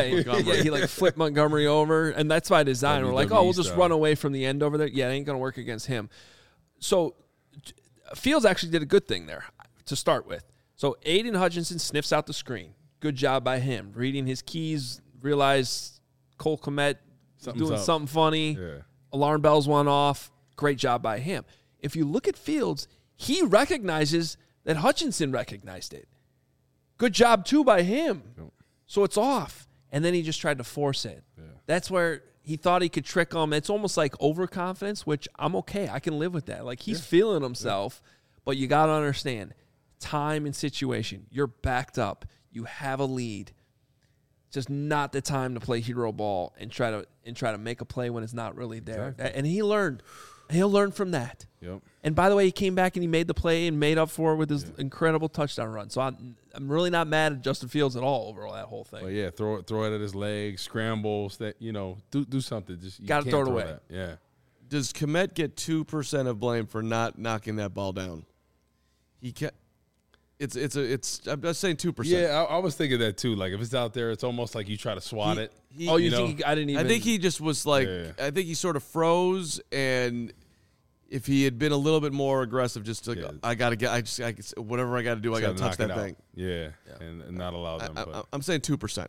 He flipped Montgomery over, and that's by design. We're like, we'll just run away from the end over there. Yeah, it ain't going to work against him. So Fields actually did a good thing there to start with. So Aiden Hutchinson sniffs out the screen. Good job by him. Reading his keys, realized Cole Kmet doing something funny. Yeah. Alarm bells went off. Great job by him. If you look at Fields, he recognizes that Hutchinson recognized it. Good job, too, by him. Yep. So it's off. And then he just tried to force it. Yeah. That's where he thought he could trick him. It's almost like overconfidence, which I'm okay. I can live with that. He's feeling himself. But you got to understand, time and situation. You're backed up. You have a lead. Just not the time to play hero ball and try to make a play when it's not really there. Exactly. And he learned. He'll learn from that. Yep. And by the way, he came back and he made the play and made up for it with his incredible touchdown run. So I'm really not mad at Justin Fields at all over that whole thing.
Well, throw it at his legs, scrambles. That do something. Just
got to throw it away.
That. Yeah.
Does Kmet get 2% of blame for not knocking that ball down? He can't. It's. I'm just saying 2%.
Yeah, I was thinking that too. If it's out there, it's almost like you try to swat it.
You think I didn't even?
I think he just was I think he sort of froze, and if he had been a little bit more aggressive, just I gotta get, whatever I gotta do, I gotta touch that thing.
Yeah. And not allow them.
I'm saying 2%.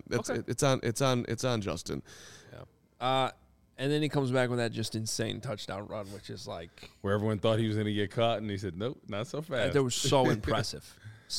It's on Justin.
Yeah. And then he comes back with that just insane touchdown run, which is
where everyone thought he was going to get caught, and he said, "Nope, not so fast."
That was so impressive,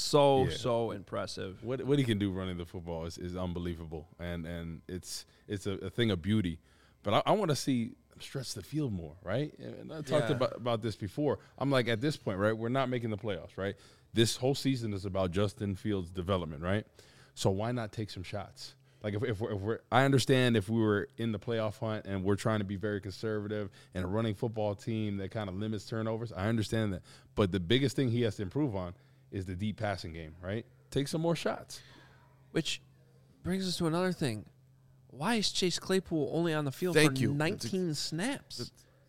so impressive.
What he can do running the football is unbelievable, and it's a thing of beauty. But I want to see him stretch the field more, right? And I talked about this before. I'm like, at this point, right? We're not making the playoffs, right? This whole season is about Justin Fields' development, right? So why not take some shots? If we're, I understand if we were in the playoff hunt and we're trying to be very conservative and a running football team that kind of limits turnovers, I understand that. But the biggest thing he has to improve on is the deep passing game, right? Take some more shots.
Which brings us to another thing. Why is Chase Claypool only on the field for 19 snaps?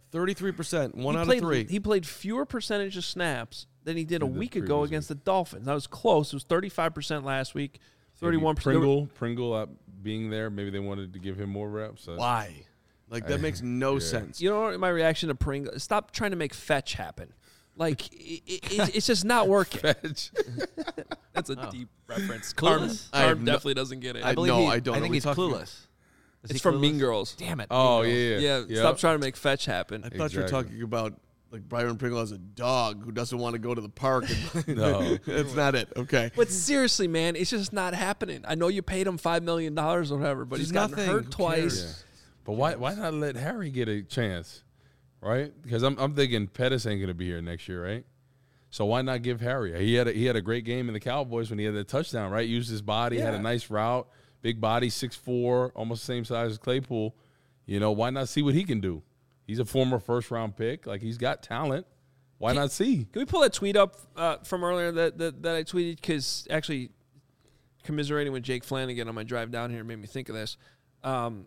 33%, one out of 3.
He played fewer percentage of snaps than he did a week ago against the Dolphins. That was close. It was 35% last week. 31%.
Pringle being there, maybe they wanted to give him more reps.
Why? That makes no sense.
You know what my reaction to Pringle? Stop trying to make fetch happen. Like, it's just not working. That's a deep reference. Carm definitely doesn't get it.
I don't. I think he's clueless.
It's from Mean Girls.
Damn it.
Oh, yeah.
Stop trying to make fetch happen.
I thought you were talking about like Byron Pringle as a dog who doesn't want to go to the park.
No.
That's not it. Okay.
But seriously, man, it's just not happening. I know you paid him $5 million or whatever, but he's gotten hurt twice.
Yeah. But why not let Harry get a chance, right? Because I'm thinking Pettis ain't going to be here next year, right? So why not give Harry? He had a great game in the Cowboys when he had that touchdown, right? Used his body, had a nice route, big body, 6'4", almost the same size as Claypool. You know, why not see what he can do? He's a former first-round pick. Like, he's got talent. Why not see?
Can we pull that tweet up from earlier that I tweeted? Because actually, commiserating with Jake Flanagan on my drive down here made me think of this. And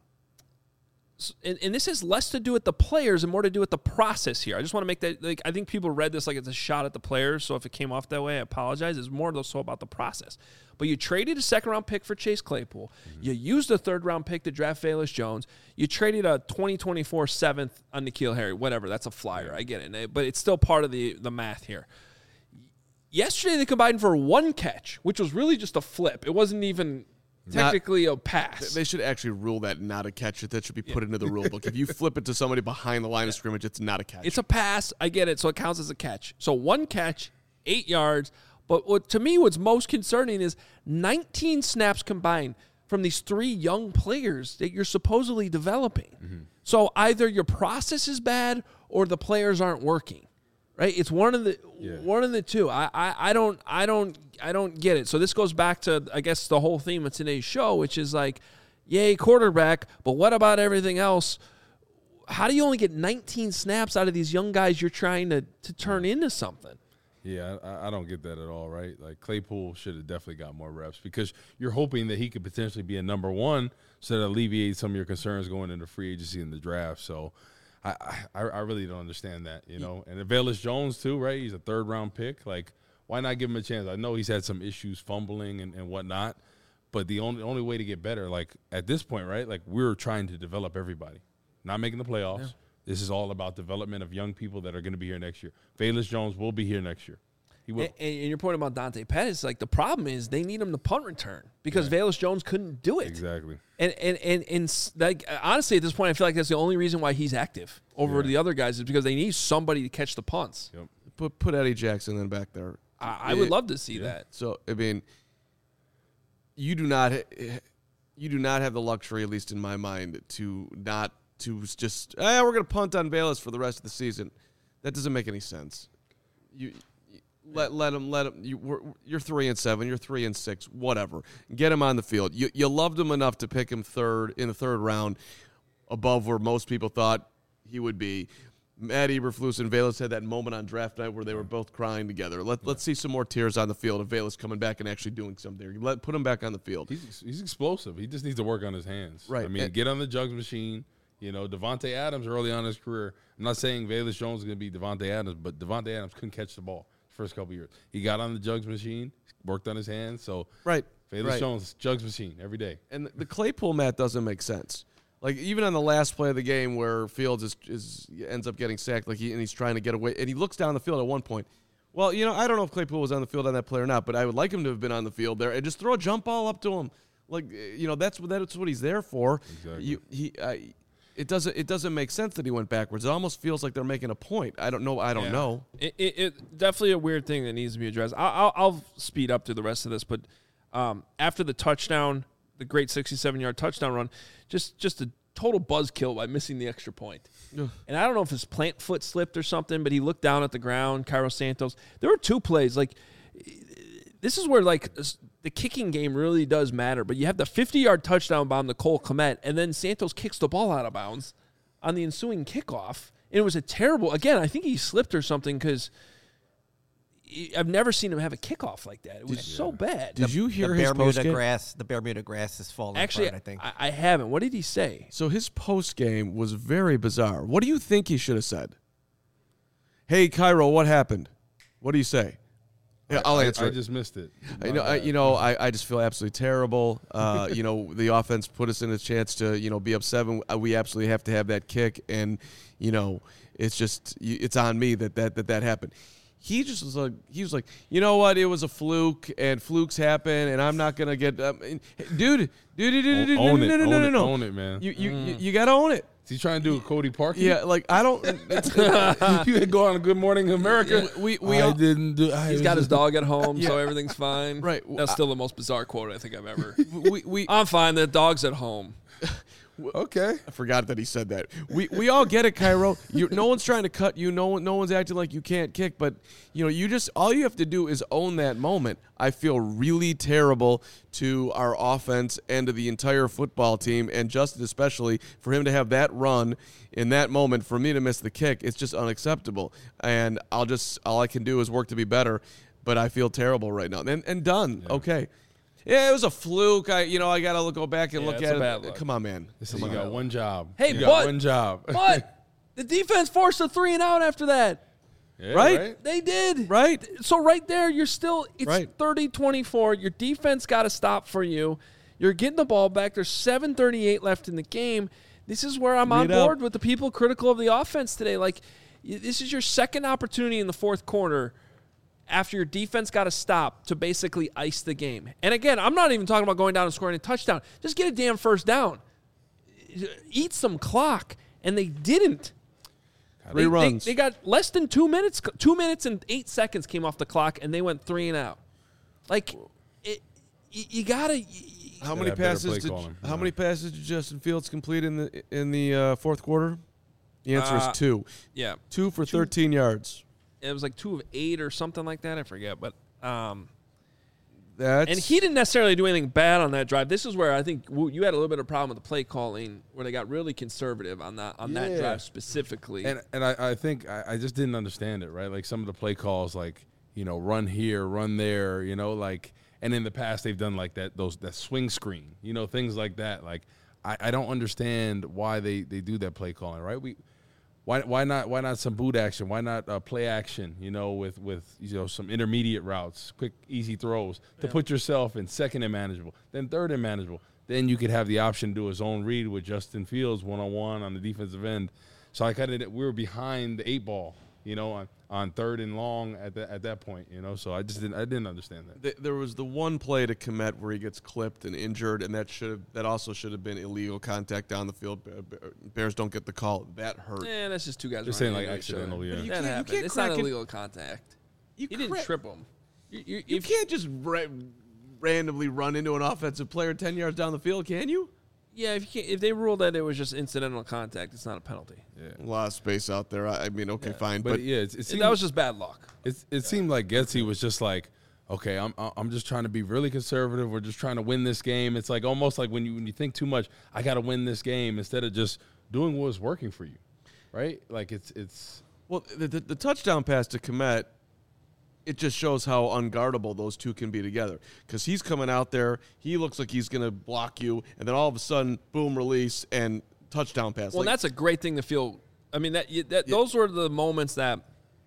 this has less to do with the players and more to do with the process here. I just want to make that, like, I think people read this like it's a shot at the players, so if it came off that way, I apologize. It's more so about the process. But you traded a second-round pick for Chase Claypool. Mm-hmm. You used a third-round pick to draft Velus Jones. You traded a 2024 7th on N'Keal Harry. Whatever, that's a flyer. I get it. But it's still part of the math here. Yesterday, they combined for one catch, which was really just a flip. It wasn't even technically a pass.
They should actually rule that not a catch. That should be put into the rule book. If you flip it to somebody behind the line of scrimmage, it's not a catch.
It's a pass. I get it. So it counts as a catch. So one catch, 8 yards. But to me, what's most concerning is 19 snaps combined from these 3 young players that you're supposedly developing. Mm-hmm. So either your process is bad or the players aren't working. Right? It's one of the two. I don't get it. So this goes back to, I guess, the whole theme of today's show, which is like, yay, quarterback, but what about everything else? How do you only get 19 snaps out of these young guys you're trying to turn into something?
Yeah, I don't get that at all, right? Like, Claypool should have definitely got more reps because you're hoping that he could potentially be a number one so that alleviates some of your concerns going into free agency in the draft. So I really don't understand that, you know. And Velus Jones, too, right? He's a third-round pick. Like, why not give him a chance? I know he's had some issues fumbling and whatnot, but the only way to get better, like, at this point, right, like, we're trying to develop everybody, not making the playoffs. Yeah. This is all about development of young people that are going to be here next year. Velus Jones will be here next year. He will.
And your point about Dante Pettis, like, the problem is they need him to punt return because Velus Jones couldn't do it.
Exactly.
And like, honestly, at this point, I feel like that's the only reason why he's active over the other guys is because they need somebody to catch the punts.
Yep. Put Eddie Jackson then back there.
I would love to see that.
So, I mean, you do not have the luxury, at least in my mind, to just we're going to punt on Velus for the rest of the season. That doesn't make any sense. You let him. You're 3-7. You're 3-6. Whatever. Get him on the field. You loved him enough to pick him third in the third round, above where most people thought he would be. Matt Eberflus and Velus had that moment on draft night where they were both crying together. Let's see some more tears on the field of Velus coming back and actually doing something. Put him back on the field.
He's explosive. He just needs to work on his hands.
Right.
I mean, get on the jugs machine. You know, Devontae Adams early on in his career. I'm not saying Velus Jones is going to be Devontae Adams, but Devontae Adams couldn't catch the ball the first couple of years. He got on the jugs machine, worked on his hands. So Velus Jones, jugs machine every day.
And the Claypool mat doesn't make sense. Like, even on the last play of the game where Fields ends up getting sacked, and he's trying to get away, and he looks down the field at one point. Well, you know, I don't know if Claypool was on the field on that play or not, but I would like him to have been on the field there and just throw a jump ball up to him. Like, you know, that's what he's there for.
Exactly.
It doesn't make sense that he went backwards. It almost feels like they're making a point. I don't know.
It definitely a weird thing that needs to be addressed. I'll speed up through the rest of this, but after the touchdown, the great 67-yard touchdown run, just a total buzzkill by missing the extra point. And I don't know if his plant foot slipped or something, but he looked down at the ground. Cairo Santos. There were 2 plays. Like, this is where, like, the kicking game really does matter. But you have the 50-yard touchdown bomb to Cole Kmet, and then Santos kicks the ball out of bounds on the ensuing kickoff. And it was a terrible – again, I think he slipped or something because I've never seen him have a kickoff like that. It was so bad.
Did you hear his post-game?
The Bermuda grass is falling
apart,
I think.
I haven't. What did he say?
So his post-game was very bizarre. What do you think he should have said? Hey, Cairo, what happened? What do you say? Yeah, I'll answer.
I just missed it.
I just feel absolutely terrible. The offense put us in a chance to, be up 7. We absolutely have to have that kick, and it's just it's on me that happened. He just was like, you know what? It was a fluke, and flukes happen, and I'm not gonna get,
own it, man.
You gotta own it.
Is he trying to do a Cody Parkey?
Yeah, like I don't.
You go on Good Morning America.
He's got his dog at home, so everything's fine.
Right.
That's still the most bizarre quote I think I've ever.
I'm
fine. The dog's at home.
Okay.
I forgot that he said that. We all get it, Cairo. No one's trying to cut you. No one's acting like you can't kick. But all you have to do is own that moment. I feel really terrible to our offense and to the entire football team, and Justin especially, for him to have that run in that moment. For me to miss the kick, it's just unacceptable. And all I can do is work to be better. But I feel terrible right now. And done. Yeah. Okay. Yeah, it was a fluke. I got to go back and look at it. Come on, man.
You got one job.
Hey,
you got one job.
But the defense forced a 3-and-out after that.
Yeah, right?
They did.
Right?
So right there, it's 30-24. Your defense got to stop for you. You're getting the ball back. There's 7:38 left in the game. This is where I'm on board with the people critical of the offense today. Like, this is your second opportunity in the fourth quarter after your defense got to stop to basically ice the game. And again, I'm not even talking about going down and scoring a touchdown. Just get a damn first down. Eat some clock. And they didn't.
3 runs.
They got less than 2 minutes. 2 minutes and 8 seconds came off the clock, and they went 3-and-out. Like, you got to...
How many passes did Justin Fields complete in the fourth quarter? The answer is 2.
Yeah.
2 for 13 yards.
It was like 2 of 8 or something like that. I forget, but
and
he didn't necessarily do anything bad on that drive. This is where I think you had a little bit of problem with the play calling, where they got really conservative on that drive specifically.
And I think I just didn't understand it, right? Like some of the play calls, like run here, run there, and in the past they've done like that swing screen, things like that. Like I don't understand why they do that play calling, right? Why not some boot action? Why not play action? With some intermediate routes, quick easy throws to put yourself in second and manageable, then third and manageable. Then you could have the option to do a zone read with Justin Fields 1-on-1 on the defensive end. So we were behind the 8 ball, on third and long at that point, So I didn't understand that.
There was the one play to Kmet where he gets clipped and injured, and that also should have been illegal contact down the field. Bears don't get the call. That hurt.
Yeah, that's just 2 guys.
They're saying like accidental. Yeah,
that happened. It's not illegal contact. He didn't trip him.
You can't just randomly run into an offensive player 10 yards down the field, can you?
Yeah, if they ruled that it was just incidental contact, it's not a penalty.
Yeah. A lot of space out there. I mean, okay, fine, but
yeah,
that was just bad luck.
It seemed like Getsy was just like, okay, I'm just trying to be really conservative. We're just trying to win this game. It's like almost like when you think too much, I got to win this game, instead of just doing what was working for you, right? Like it's
well, the touchdown pass to Kmet, it just shows how unguardable those two can be together. Because he's coming out there, he looks like he's going to block you, and then all of a sudden, boom, release, and touchdown pass.
Well, that's a great thing to feel. I mean, those were the moments that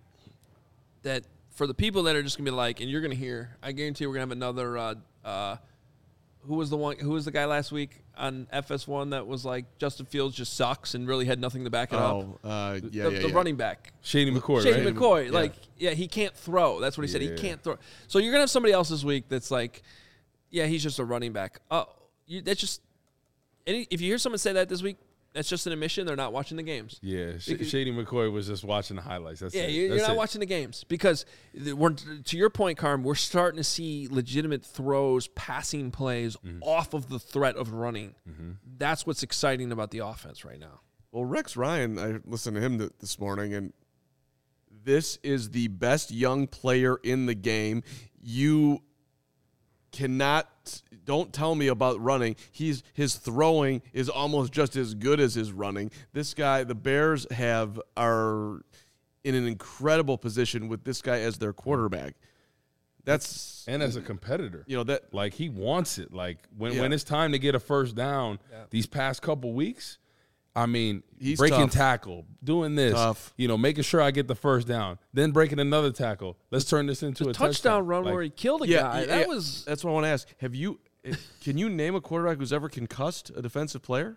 for the people that are just going to be like, and you're going to hear, I guarantee we're going to have another, who was the guy last week on FS1 that was like, Justin Fields just sucks and really had nothing to back it up? The running back.
Shady McCoy,
Shady McCoy. He can't throw. That's what he said. He can't throw. So you're going to have somebody else this week that's like, yeah, he's just a running back. That's just – if you hear someone say that this week, that's just an admission. They're not watching the games.
Yeah, Shady McCoy was just watching the highlights.
You're not watching the games because, to your point, Carm, we're starting to see legitimate throws, passing plays off of the threat of running. Mm-hmm. That's what's exciting about the offense right now.
Well, Rex Ryan, I listened to him this morning, and this is the best young player in the game. You don't tell me about running. His throwing is almost just as good as his running. This guy, the Bears are in an incredible position with this guy as their quarterback.
And as a competitor,
that
he wants it. Like when it's time to get a first down, these past couple weeks, I mean,
he's
breaking
tough.
tackle, doing this,
Tough.
Making sure I get the first down, then breaking another tackle. Let's turn this into a
touchdown run where he killed a guy.
That's what I want to ask. Can you name a quarterback who's ever concussed a defensive player?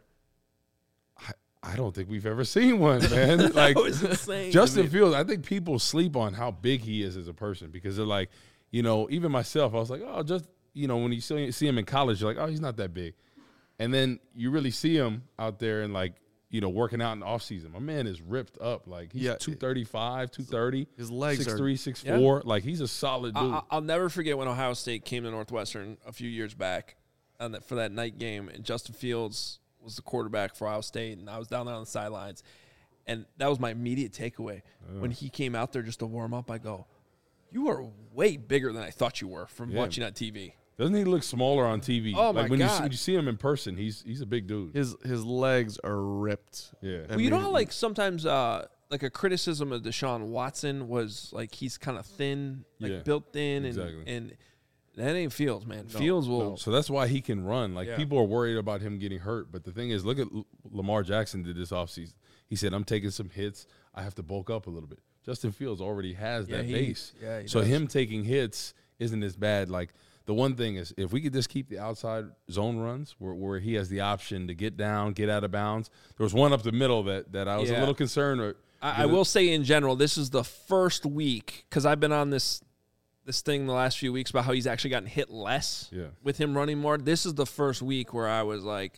I don't think we've ever seen one, man. Like,
that was insane.
Justin Fields, I think people sleep on how big he is as a person because they're like, even myself, I was like, oh, just, when you see him in college, you're like, oh, he's not that big. And then you really see him out there and, like, working out in the offseason. My man is ripped up. Like, he's 235, 230.
His legs
6'3",
are
6'4". Yeah. Like, he's a solid dude.
I'll never forget when Ohio State came to Northwestern a few years back for that night game, and Justin Fields was the quarterback for Ohio State, and I was down there on the sidelines. And that was my immediate takeaway. When he came out there just to warm up, I go, you are way bigger than I thought you were from watching on TV.
Doesn't he look smaller on TV?
Oh, my
when
God.
You see him in person, he's a big dude.
His legs are ripped.
Yeah.
Well, you know how, like, sometimes like a criticism of Deshaun Watson was, like, he's kind of thin, like built thin.
Exactly.
And that ain't Fields, man. Fields will.
No. So that's why he can run. Like, people are worried about him getting hurt. But the thing is, look at Lamar Jackson did this offseason. He said, I'm taking some hits. I have to bulk up a little bit. Justin Fields already has that base.
Yeah,
so him taking hits isn't as bad. Like, the one thing is, if we could just keep the outside zone runs where he has the option to get down, get out of bounds. There was one up the middle that I was a little concerned with.
I will say in general, this is the first week, because I've been on this thing the last few weeks about how he's actually gotten hit less with him running more. This is the first week where I was like,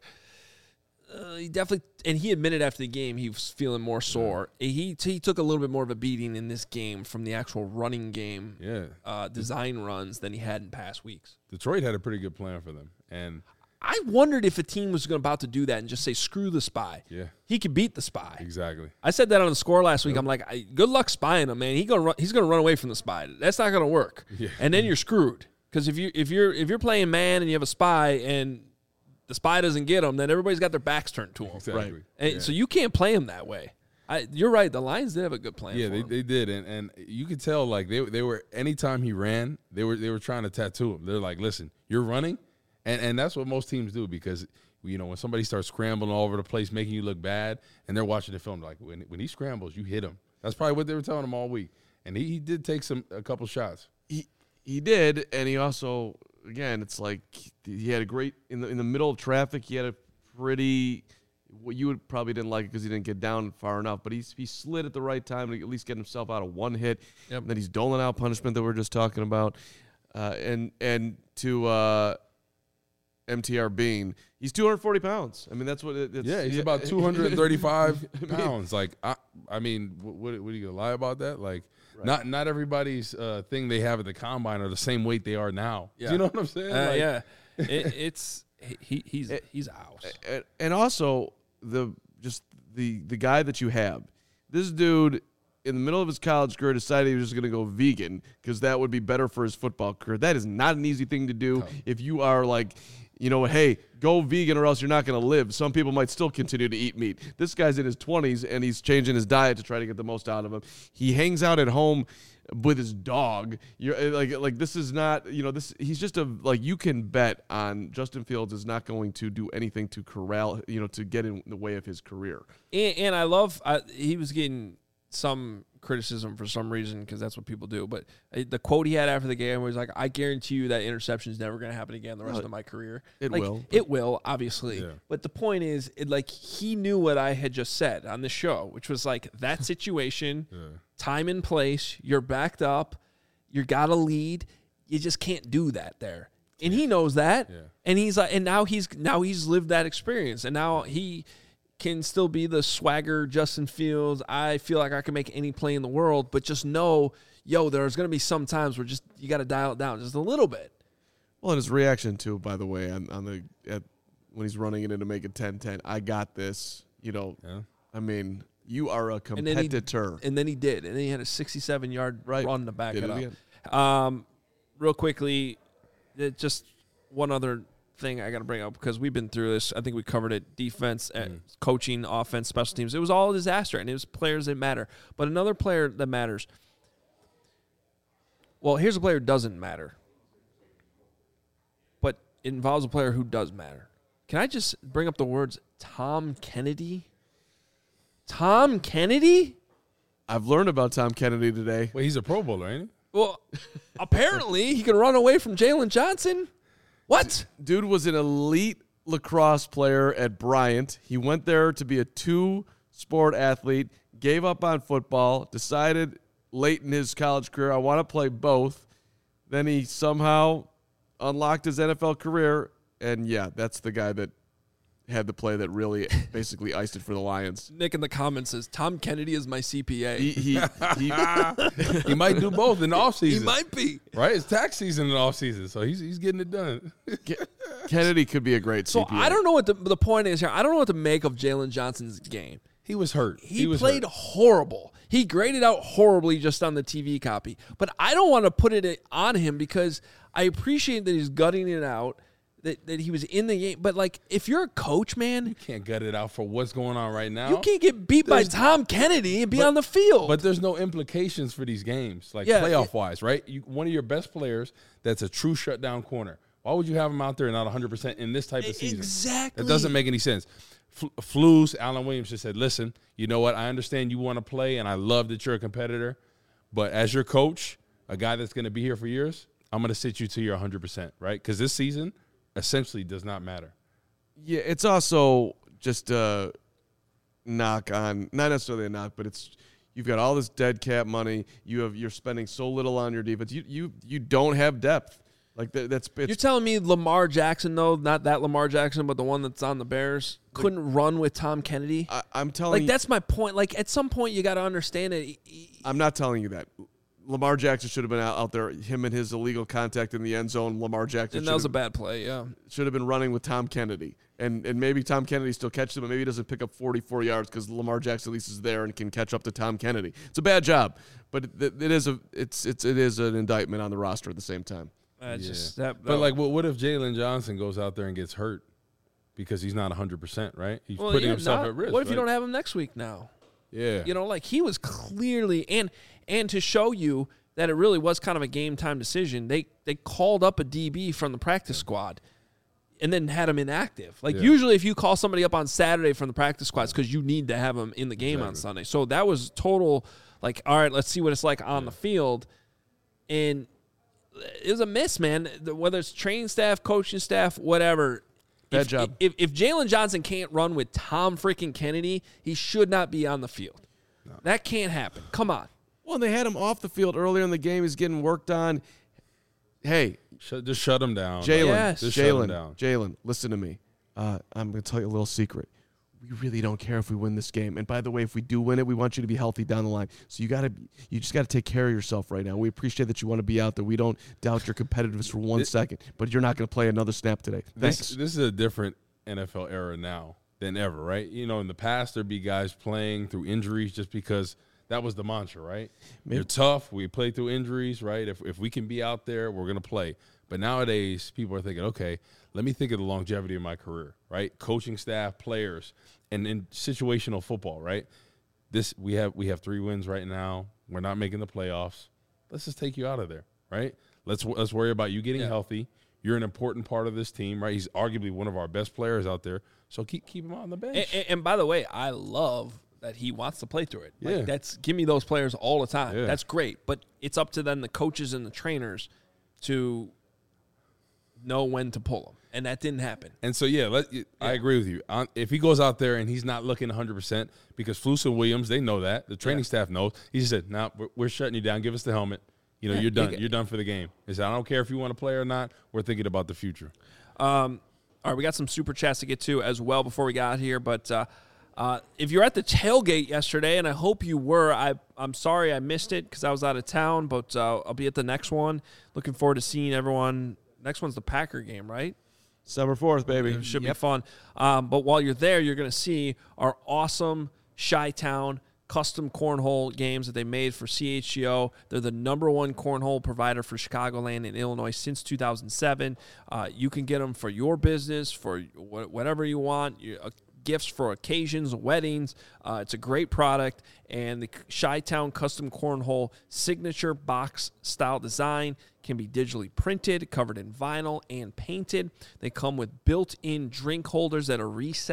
he definitely, and he admitted after the game he was feeling more sore. He took a little bit more of a beating in this game from the actual running game design runs than he had in past weeks.
Detroit had a pretty good plan for them. And
I wondered if a team was about to do that and just say, screw the spy.
Yeah.
He could beat the spy.
Exactly.
I said that on the score last week. I'm like, good luck spying him, man. He's gonna run away from the spy. That's not gonna work.
Yeah.
And then you're screwed. Because if you're playing man and you have a spy and the spy doesn't get him, then everybody's got their backs turned to him.
Exactly.
Right. And so you can't play him that way. You're right. The Lions did have a good plan.
Yeah,
for him.
they did, and you could tell like they were anytime he ran, they were trying to tattoo him. They're like, listen, you're running, and that's what most teams do because when somebody starts scrambling all over the place, making you look bad, and they're watching the film like when he scrambles, you hit him. That's probably what they were telling him all week, and he did take a couple shots.
He did, and he also. Again, it's like he had a great in the middle of traffic. He had a pretty. Well, you would probably didn't like it because he didn't get down far enough, but he slid at the right time to at least get himself out of one hit. Yep. And then he's doling out punishment that we're just talking about, and to MTR Bean, he's 240 pounds. I mean, that's what it's.
Yeah, he's about 235 pounds. Like, I mean, what are you gonna lie about that? Like. Right. Not everybody's thing they have at the combine are the same weight they are now. Yeah. Do you know what I'm saying?
He's out.
And also the guy that you have, this dude in the middle of his college career decided he was just going to go vegan because that would be better for his football career. That is not an easy thing to do if you are like. Hey, go vegan or else you're not going to live. Some people might still continue to eat meat. This guy's in his 20s, and he's changing his diet to try to get the most out of him. He hangs out at home with his dog. You're like this is not, this. He's just you can bet on Justin Fields is not going to do anything to corral, to get in the way of his career.
And I love he was getting some criticism for some reason because that's what people do. But the quote he had after the game was like, I guarantee you that interception is never going to happen again the rest of my career. It will, obviously. Yeah. But the point is, he knew what I had just said on the show, which was like that situation, time and place, you're backed up, you got to lead. You just can't do that there. And he knows that. Yeah. And he's like, and now he's lived that experience. And now he can still be the swagger Justin Fields. I feel like I can make any play in the world, but just know, there's going to be some times where you got to dial it down just a little bit.
Well, and his reaction too, by the way, when he's running it in to make it 10-10, I got this. I mean, you are a competitor.
And then he did, and then he had a 67-yard run to back it up. Real quickly, just one other thing I got to bring up because we've been through this. I think we covered it. Defense, coaching, offense, special teams. It was all a disaster, and it was players that matter. But another player that matters. Well, here's a player who doesn't matter, but it involves a player who does matter. Can I just bring up the words Tom Kennedy? Tom Kennedy?
I've learned about Tom Kennedy today.
Wait, he's a Pro Bowler, ain't he?
Well, apparently he can run away from Jalen Johnson. What?
Dude was an elite lacrosse player at Bryant. He went there to be a 2-sport athlete, gave up on football, decided late in his college career, I want to play both. Then he somehow unlocked his NFL career, and yeah, that's the guy that had the play that really basically iced it for the Lions.
Nick in the comments says, Tom Kennedy is my CPA.
He might do both in the offseason.
He might be.
Right? It's tax season in the offseason, so he's getting it done.
Kennedy could be a great CPA.
So I don't know what the point is here. I don't know what to make of Jalen Johnson's game.
He was hurt.
He played horrible. He graded out horribly just on the TV copy. But I don't want to put it on him because I appreciate that he's gutting it out, that he was in the game. But, like, if you're a coach, man.
You can't gut it out for what's going on right now.
You can't get beat by Tom Kennedy and be on the field.
But there's no implications for these games, like playoff-wise, right? One of your best players that's a true shutdown corner. Why would you have him out there not 100% in this type of season?
Exactly.
That doesn't make any sense. Flus, Alan Williams just said, listen, you know what? I understand you want to play, and I love that you're a competitor. But as your coach, a guy that's going to be here for years, I'm going to sit you to your 100%, right? Because this season essentially does not matter.
Yeah, it's also just a knock on, not necessarily a knock, but it's you've got all this dead cap money. You're spending so little on your defense. You don't have depth. Like that's
you're telling me Lamar Jackson, though, not that Lamar Jackson, but the one that's on the Bears, couldn't run with Tom Kennedy?
I'm telling you.
That's my point. Like, at some point, you got to understand it.
I'm not telling you that. Lamar Jackson should have been out there, him and his illegal contact in the end zone. Lamar Jackson.
And that was a bad play, yeah.
Should have been running with Tom Kennedy. And maybe Tom Kennedy still catches him, but maybe he doesn't pick up 44 yards because Lamar Jackson at least is there and can catch up to Tom Kennedy. It's a bad job, but it is an indictment on the roster at the same time.
But like, what if Jalen Johnson goes out there and gets hurt because he's not 100%, right? He's putting himself at risk.
What if you don't have him next week now?
Yeah.
You know, like he was clearly and to show you that it really was kind of a game time decision, they called up a DB from the practice squad and then had him inactive. Like usually if you call somebody up on Saturday from the practice squad, it's because you need to have them in the game on Sunday. So that was total, like, all right, let's see what it's like on the field. And it was a miss, man. Whether it's training staff, coaching staff, whatever.
Bad job.
If Jalen Johnson can't run with Tom freaking Kennedy, he should not be on the field. No. That can't happen. Come on.
Well, they had him off the field earlier in the game. He's getting worked on. Hey.
Just shut him down.
Jalen, listen to me. I'm going to tell you a little secret. We really don't care if we win this game. And by the way, if we do win it, we want you to be healthy down the line. So you just got to take care of yourself right now. We appreciate that you want to be out there. We don't doubt your competitiveness for 1 second, but you're not going to play another snap today. Thanks.
This is a different NFL era now than ever, right? You know, in the past, there'd be guys playing through injuries just because that was the mantra, right? Maybe. You're tough. We play through injuries, right? If we can be out there, we're going to play. But nowadays, people are thinking, okay, let me think of the longevity of my career, right? Coaching staff, players, and in situational football, right? We have 3 wins right now. We're not making the playoffs. Let's just take you out of there, right? Let's worry about you getting healthy. You're an important part of this team, right? He's arguably one of our best players out there. So keep him on the bench.
And by the way, I love that he wants to play through it. Like, give me those players all the time. Yeah. That's great. But it's up to then the coaches and the trainers to know when to pull them. And that didn't happen.
And so, I agree with you. If he goes out there and he's not looking 100%, because Flus and Williams, they know that. The training staff knows. He just said, no, we're shutting you down. Give us the helmet. You know, you're done. You're done for the game. He said, I don't care if you want to play or not. We're thinking about the future.
All right, we got some super chats to get to as well before we got here. But if you're at the tailgate yesterday, and I hope you were, I'm sorry I missed it because I was out of town, but I'll be at the next one. Looking forward to seeing everyone. Next one's the Packer game, right?
December 4th, baby.
It should be fun. But while you're there, you're going to see our awesome Chi-Town custom cornhole games that they made for CHGO. They're the #1 cornhole provider for Chicagoland and Illinois since 2007. You can get them for your business, for whatever you want. Gifts for occasions, weddings. It's a great product. And the Chi-Town Custom Cornhole signature box style design can be digitally printed, covered in vinyl, and painted. They come with built-in drink holders that are recessed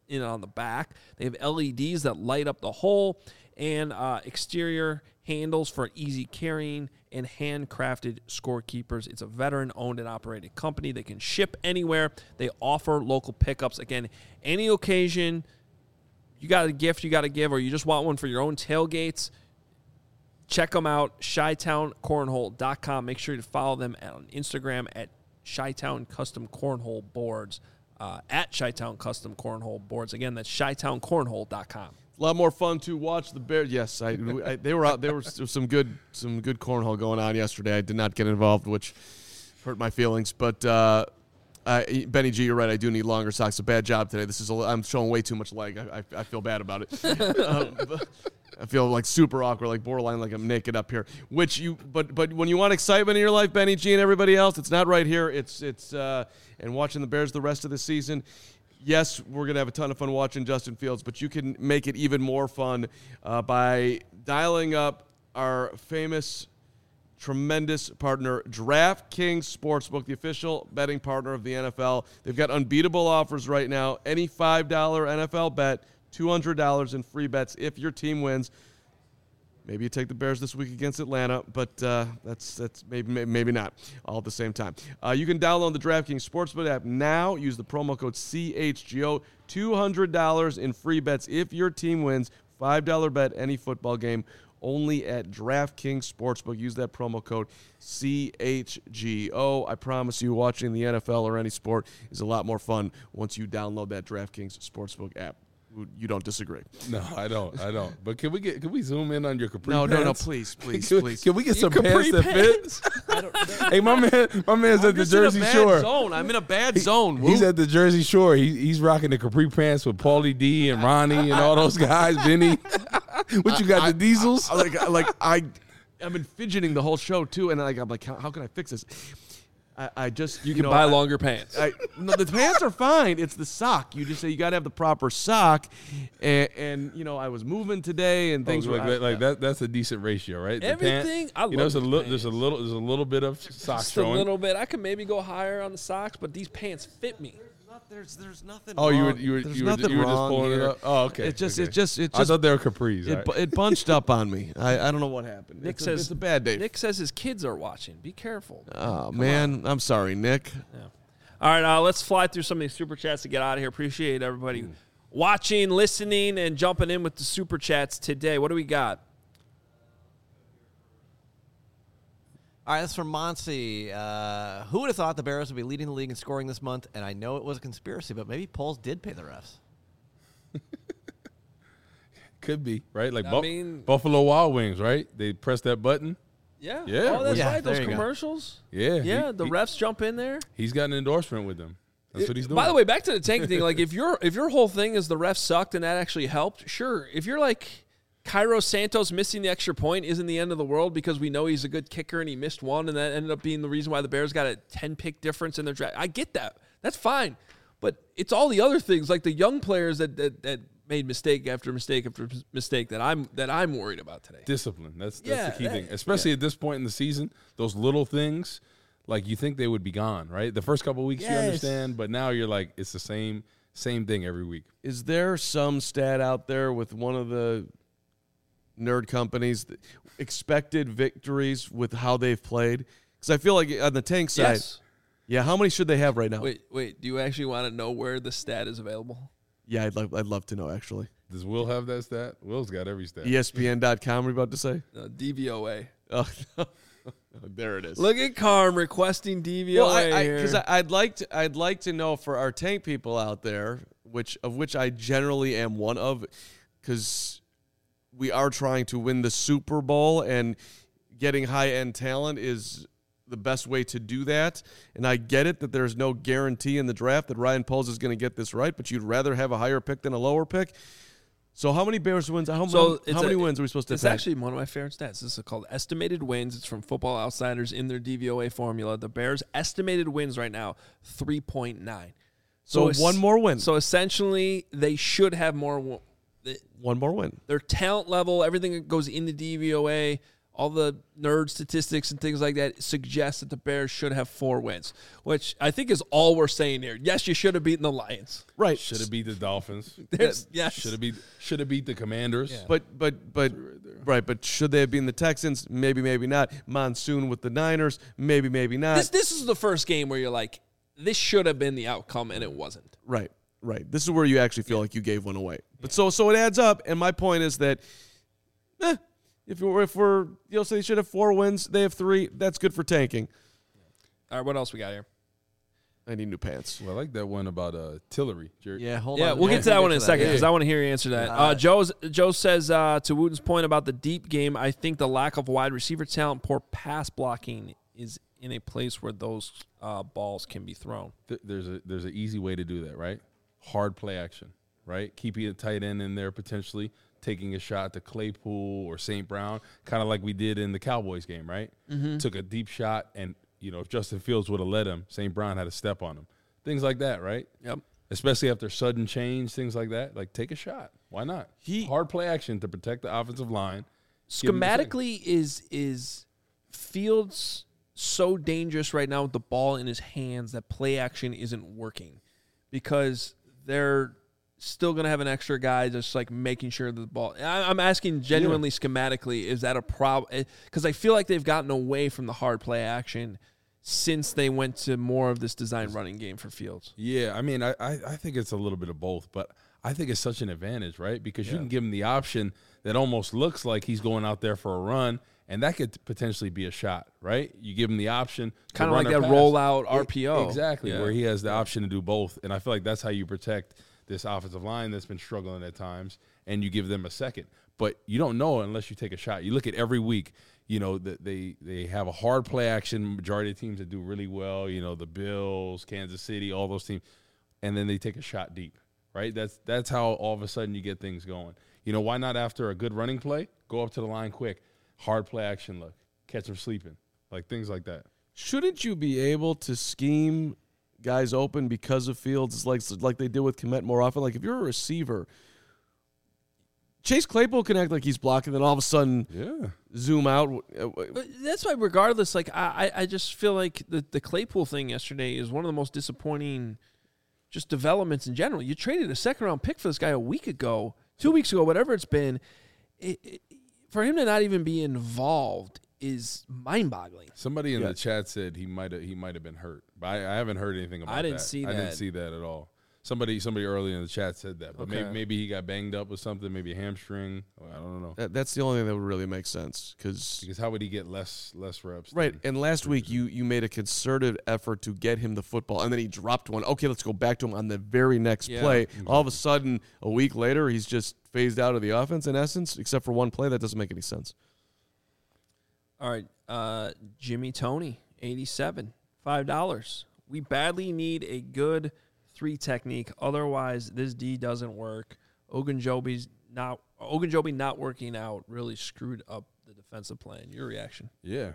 in on the back. They have LEDs that light up the hole and exterior handles for easy carrying and handcrafted scorekeepers. It's a veteran-owned and operated company. They can ship anywhere. They offer local pickups. Again, any occasion, you got a gift you got to give, or you just want one for your own tailgates, check them out, ChyTownCornhole.com. Make sure to follow them on Instagram at ChyTown Custom Cornhole Boards, at ChyTown Custom Cornhole Boards. Again, that's ChyTownCornhole.com.
A lot more fun to watch the Bears. Yes, they were out. There was some good cornhole going on yesterday. I did not get involved, which hurt my feelings. But Benny G, you're right. I do need longer socks. A bad job today. I'm showing way too much leg. I feel bad about it. I feel like super awkward, like borderline, like I'm naked up here. But when you want excitement in your life, Benny G and everybody else, it's not right here. It's and watching the Bears the rest of the season. Yes, we're going to have a ton of fun watching Justin Fields, but you can make it even more fun by dialing up our famous, tremendous partner, DraftKings Sportsbook, the official betting partner of the NFL. They've got unbeatable offers right now. Any $5 NFL bet, $200 in free bets if your team wins. Maybe you take the Bears this week against Atlanta, but that's maybe not all at the same time. You can download the DraftKings Sportsbook app now. Use the promo code CHGO. $200 in free bets if your team wins. $5 bet any football game only at DraftKings Sportsbook. Use that promo code CHGO. I promise you, watching the NFL or any sport is a lot more fun once you download that DraftKings Sportsbook app. You don't disagree.
No, I don't. But can we zoom in on your capri
pants?
No,
please.
Can we get some pants that fit? Hey, my man's at the Jersey Shore.
I'm in a bad zone.
He's at the Jersey Shore. He's rocking the capri pants with Paulie D and Ronnie and all those guys. Vinny, what you got? The Diesels?
I've been fidgeting the whole show too, and I'm like, how can I fix this? I just
you can buy longer pants.
No, the pants are fine. It's the sock. You just say you got to have the proper sock, and I was moving today and things were
like that. That's a decent ratio, right?
Everything. I love
there's a little bit of socks showing.
A little bit. I can maybe go higher on the socks, but these pants fit me.
There's nothing.
Oh,
wrong.
you were just pulling it up. Oh, okay.
It just. I
thought they were capris.
It bunched up on me. I don't know what happened.
Nick says
it's a bad day.
Nick says his kids are watching. Be careful.
Oh man, I'm sorry, Nick.
Yeah. All right, let's fly through some of these super chats to get out of here. Appreciate everybody watching, listening, and jumping in with the super chats today. What do we got?
All right, that's from Monsi. Who would have thought the Bears would be leading the league in scoring this month? And I know it was a conspiracy, but maybe polls did pay the refs.
Could be, right? Like Buffalo Wild Wings, right? They press that button.
Yeah.
Yeah.
Oh, that's right. Those commercials.
Go. Yeah.
Yeah, the refs jump in there.
He's got an endorsement with them. That's what he's doing.
By the way, back to the tank thing. Like, if your whole thing is the refs sucked and that actually helped, sure. If you're like Cairo Santos missing the extra point isn't the end of the world because we know he's a good kicker and he missed one and that ended up being the reason why the Bears got a 10-pick difference in their draft. I get that. That's fine. But it's all the other things, like the young players that made mistake after mistake after mistake that I'm worried about today.
Discipline. That's the key thing. Especially at this point in the season, those little things, like you think they would be gone, right? The first couple of weeks you understand, but now you're like, it's the same thing every week.
Is there some stat out there with one of the nerd companies that expected victories with how they've played? Because I feel like on the tank side, yeah, how many should they have right now?
Wait, do you actually want to know where the stat is available?
Yeah, I'd love to know, actually.
Does Will have that stat? Will's got every stat.
ESPN.com, we're about to say?
DVOA.
Oh, there it is.
Look at Carm requesting DVOA here.
Because I'd like to know for our tank people out there, which I generally am one of, because we are trying to win the Super Bowl, and getting high-end talent is the best way to do that. And I get it that there's no guarantee in the draft that Ryan Poles is going to get this right, but you'd rather have a higher pick than a lower pick. So how many Bears wins? How many wins are we supposed to
It's
take?
actually one of my favorite stats. This is called estimated wins. It's from Football Outsiders in their DVOA formula. The Bears' estimated wins right now, 3.9.
So one more win.
So essentially, they should have more.
One more win.
Their talent level, everything that goes into DVOA, all the nerd statistics and things like that suggest that the Bears should have 4 wins, which I think is all we're saying here. Yes, you should have beaten the Lions.
Right.
Should have beat the Dolphins.
Yes.
Should have beat the Commanders.
Yeah. But should they have been the Texans? Maybe, maybe not. Monsoon with the Niners? Maybe, maybe not.
This is the first game where you're like, this should have been the outcome, and it wasn't.
Right. This is where you actually feel like you gave one away. But so it adds up, and my point is that, if we're say they should have 4 wins, they have 3. That's good for tanking.
All right, what else we got here?
I need new pants.
Well, I like that one about Tillery. Jared.
Yeah, hold
on. We'll get to that one in a second because I want to hear you answer that. Joe says, to Wooten's point about the deep game, I think the lack of wide receiver talent, poor pass blocking is in a place where those balls can be thrown.
There's an easy way to do that, right? Hard play action, right? Keeping a tight end in there potentially, taking a shot to Claypool or St. Brown, kind of like we did in the Cowboys game, right? Mm-hmm. Took a deep shot, and, if Justin Fields would have led him, St. Brown had a step on him. Things like that, right?
Yep.
Especially after sudden change, things like that. Like, take a shot. Why not? Hard play action to protect the offensive line.
Schematically, is Fields so dangerous right now with the ball in his hands that play action isn't working because they're still going to have an extra guy just like making sure the ball. I'm asking genuinely schematically, is that a problem? Because I feel like they've gotten away from the hard play action since they went to more of this design running game for Fields.
Yeah, I mean, I think it's a little bit of both, but I think it's such an advantage, right? Because you can give him the option that almost looks like he's going out there for a run, and that could potentially be a shot, right? You give him the option.
Kind of like that rollout RPO.
Exactly, where he has the option to do both. And I feel like that's how you protect this offensive line that's been struggling at times, and you give them a second. But you don't know unless you take a shot. You look at every week, that they have a hard play action, majority of teams that do really well, the Bills, Kansas City, all those teams, and then they take a shot deep, right? That's how all of a sudden you get things going. Why not after a good running play, go up to the line quick, hard play action look, catch them sleeping, like things like that.
Shouldn't you be able to scheme guys open because of Fields like they did with Kmet more often? Like if you're a receiver, Chase Claypool can act like he's blocking, then all of a sudden zoom out.
But that's why regardless, like I just feel like the Claypool thing yesterday is one of the most disappointing just developments in general. You traded a second-round pick for this guy a week ago, 2 weeks ago, whatever it's been. For him to not even be involved is mind-boggling.
Somebody in the chat said he might have been hurt, but I haven't heard anything about that.
I didn't see
that at all. Somebody earlier in the chat said that, but maybe he got banged up with something, maybe a hamstring. I don't know.
That's the only thing that would really make sense
because how would he get less reps?
Right, and last week you made a concerted effort to get him the football, and then he dropped one. Okay, let's go back to him on the very next play. Exactly. All of a sudden, a week later, he's just phased out of the offense in essence, except for one play. That doesn't make any sense.
All right, Jimmy Tony, 87, $5. We badly need a good 3 technique. Otherwise, this D doesn't work. Ogunjobi not working out really screwed up the defensive plan. Your reaction?
Yeah.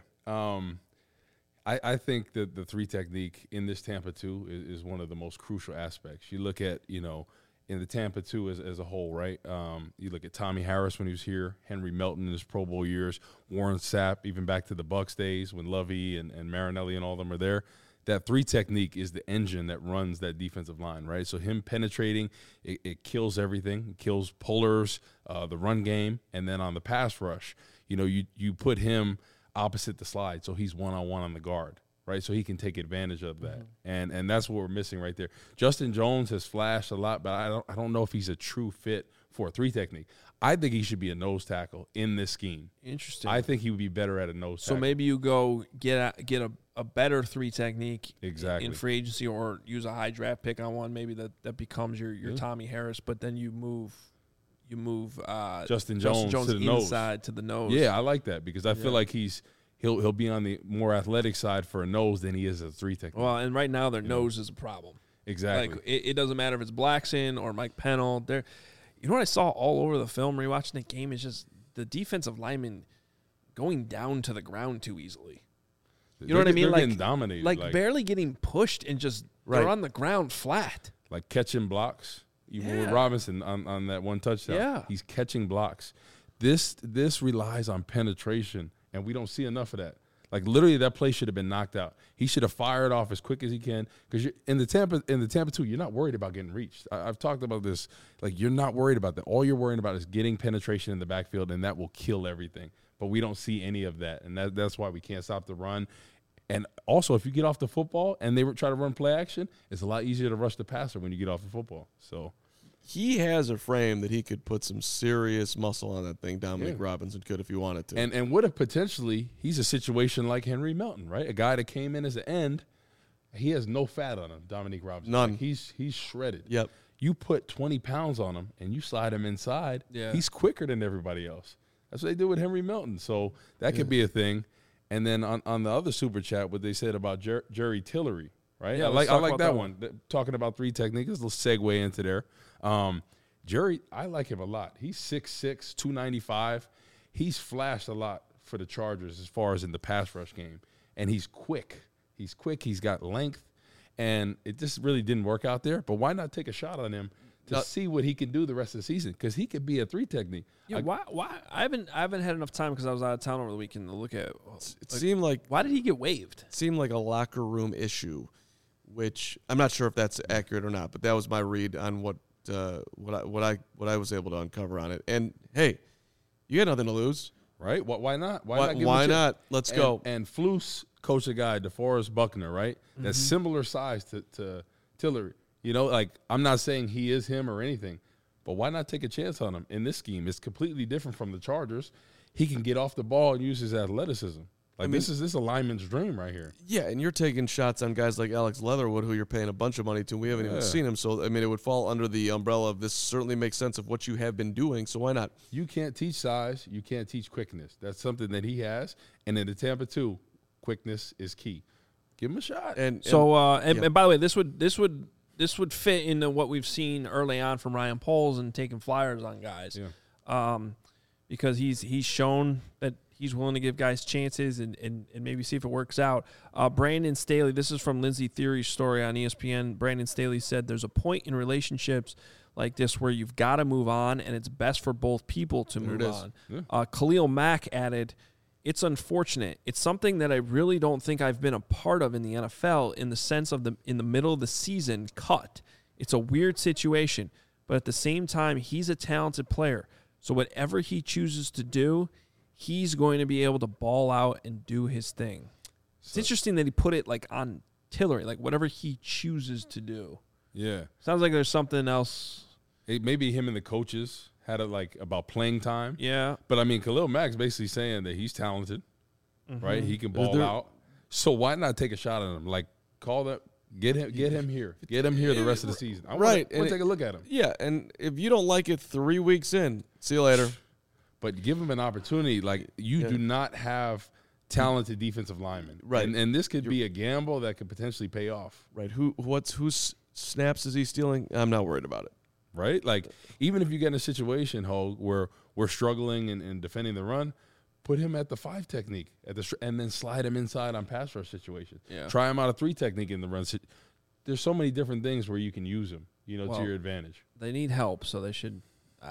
I think that the 3 technique in this Tampa 2 is one of the most crucial aspects. You look at, in the Tampa 2 as a whole, right? You look at Tommy Harris when he was here, Henry Melton in his Pro Bowl years, Warren Sapp, even back to the Bucs days when Lovey and Marinelli and all of them are there. That 3 technique is the engine that runs that defensive line, right? So him penetrating, it kills everything. It kills pullers, the run game, and then on the pass rush, you put him opposite the slide, so he's one-on-one on the guard, right? So he can take advantage of that, and that's what we're missing right there. Justin Jones has flashed a lot, but I don't know if he's a true fit for a 3 technique. I think he should be a nose tackle in this scheme.
Interesting.
I think he would be better at a nose tackle.
So maybe you go get a better 3 technique
in
free agency, or use a high draft pick on one. Maybe that becomes your Tommy Harris, but then you move
Justin Jones to the
inside nose. To the nose.
Yeah, I like that because I feel like he'll be on the more athletic side for a nose than he is a 3 technique.
Well, and right now their nose is a problem.
Exactly.
Like it doesn't matter if it's Blackson or Mike Pennell. You know what I saw all over the film rewatching the game is just the defensive linemen going down to the ground too easily. You know what I mean?
They're getting dominated.
Like barely getting pushed and just they're on the ground flat.
Like catching blocks. Even with Robinson on that one touchdown.
Yeah.
He's catching blocks. This relies on penetration and we don't see enough of that. Like, literally, that play should have been knocked out. He should have fired off as quick as he can, because in the Tampa 2, you're not worried about getting reached. I've talked about this. Like, you're not worried about that. All you're worried about is getting penetration in the backfield, and that will kill everything. But we don't see any of that, and that's why we can't stop the run. And also, if you get off the football and they try to run play action, it's a lot easier to rush the passer when you get off the football. So
he has a frame that he could put some serious muscle on that thing. Dominic Robinson could if he wanted to.
And what if potentially he's a situation like Henry Melton, right? A guy that came in as an end. He has no fat on him, Dominic Robinson.
None.
Like, he's shredded.
Yep.
You put 20 pounds on him and you slide him inside, he's quicker than everybody else. That's what they do with Henry Melton. So that could be a thing. And then on the other super chat, what they said about Jerry Tillery, right?
Yeah,
I like that one. Talking about 3 techniques, a little segue into there. Jerry, I like him a lot. He's 6'6", 295. He's flashed a lot for the Chargers as far as in the pass rush game. And he's quick. He's quick. He's got length. And it just really didn't work out there. But why not take a shot on him to see what he can do the rest of the season? Because he could be a 3 technique.
Yeah, why? I haven't had enough time because I was out of town over the weekend to look at.
It seemed like,
why did he get waived?
It seemed like a locker room issue, which I'm not sure if that's accurate or not. But that was my read on what I was able to uncover on it. And hey, you got nothing to lose,
right? Why not?
Why not? Let's go.
And Flus coached a guy, DeForest Buckner, right? Mm-hmm. That's similar size to Tillery. You know, like, I'm not saying he is him or anything, but why not take a chance on him in this scheme? It's completely different from the Chargers. He can get off the ball and use his athleticism. Like, this is a lineman's dream right here.
Yeah, and you're taking shots on guys like Alex Leatherwood, who you're paying a bunch of money to. We haven't even seen him. So, I mean, it would fall under the umbrella of this certainly makes sense of what you have been doing, so why not?
You can't teach size. You can't teach quickness. That's something that he has. And in the Tampa 2, quickness is key. Give him a shot.
And by the way, this would fit into what we've seen early on from Ryan Poles and taking flyers on guys.
Yeah.
Because he's shown that he's willing to give guys chances and maybe see if it works out. Brandon Staley, this is from Lindsey Theory's story on ESPN. Brandon Staley said there's a point in relationships like this where you've got to move on, and it's best for both people to move on. Yeah. Khalil Mack added, it's unfortunate. It's something that I really don't think I've been a part of in the NFL in the sense of in the middle of the season cut. It's a weird situation, but at the same time, he's a talented player. So whatever he chooses to do, he's going to be able to ball out and do his thing. It's interesting that he put it like on Tillery, like whatever he chooses to do.
Yeah.
Sounds like there's something else.
Maybe him and the coaches had it like about playing time.
Yeah.
But I mean, Khalil Mack's basically saying that he's talented, right? He can ball out. So why not take a shot at him? Like, call that. Get him here. Get him here the rest of the season. I want to take a look at him.
Yeah, and if you don't like it 3 weeks in, see you later.
But give him an opportunity. Like, you do not have talented defensive linemen.
Right.
And this could be a gamble that could potentially pay off.
Right. Whose snaps is he stealing? I'm not worried about it.
Right? Like, even if you get in a situation, Hogue, where we're struggling and defending the run, put him at the 5 technique and then slide him inside on pass rush situations.
Yeah.
Try him out a 3 technique in the run. There's so many different things where you can use him, to your advantage.
They need help, so they should.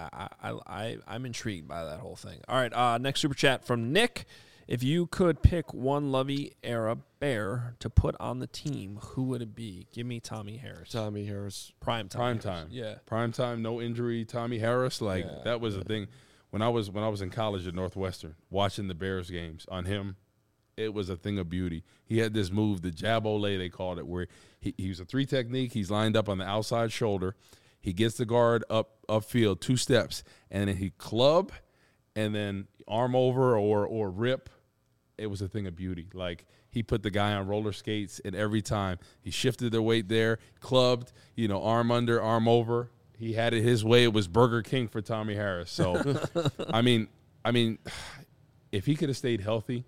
I'm intrigued by that whole thing. All right, next super chat from Nick. If you could pick one Lovie era Bear to put on the team, who would it be? Give me Tommy Harris.
Tommy Harris.
Prime time.
Yeah. Prime time, no injury. Tommy Harris, that was a thing. When I was in college at Northwestern, watching the Bears games on him, it was a thing of beauty. He had this move, the jab ole, they called it, where he was a 3 technique. He's lined up on the outside shoulder. He gets the guard upfield 2 steps, and then he club, and then arm over or rip. It was a thing of beauty. Like, he put the guy on roller skates, and every time he shifted their weight there, clubbed, arm under, arm over. He had it his way. It was Burger King for Tommy Harris. So, I mean, if he could have stayed healthy,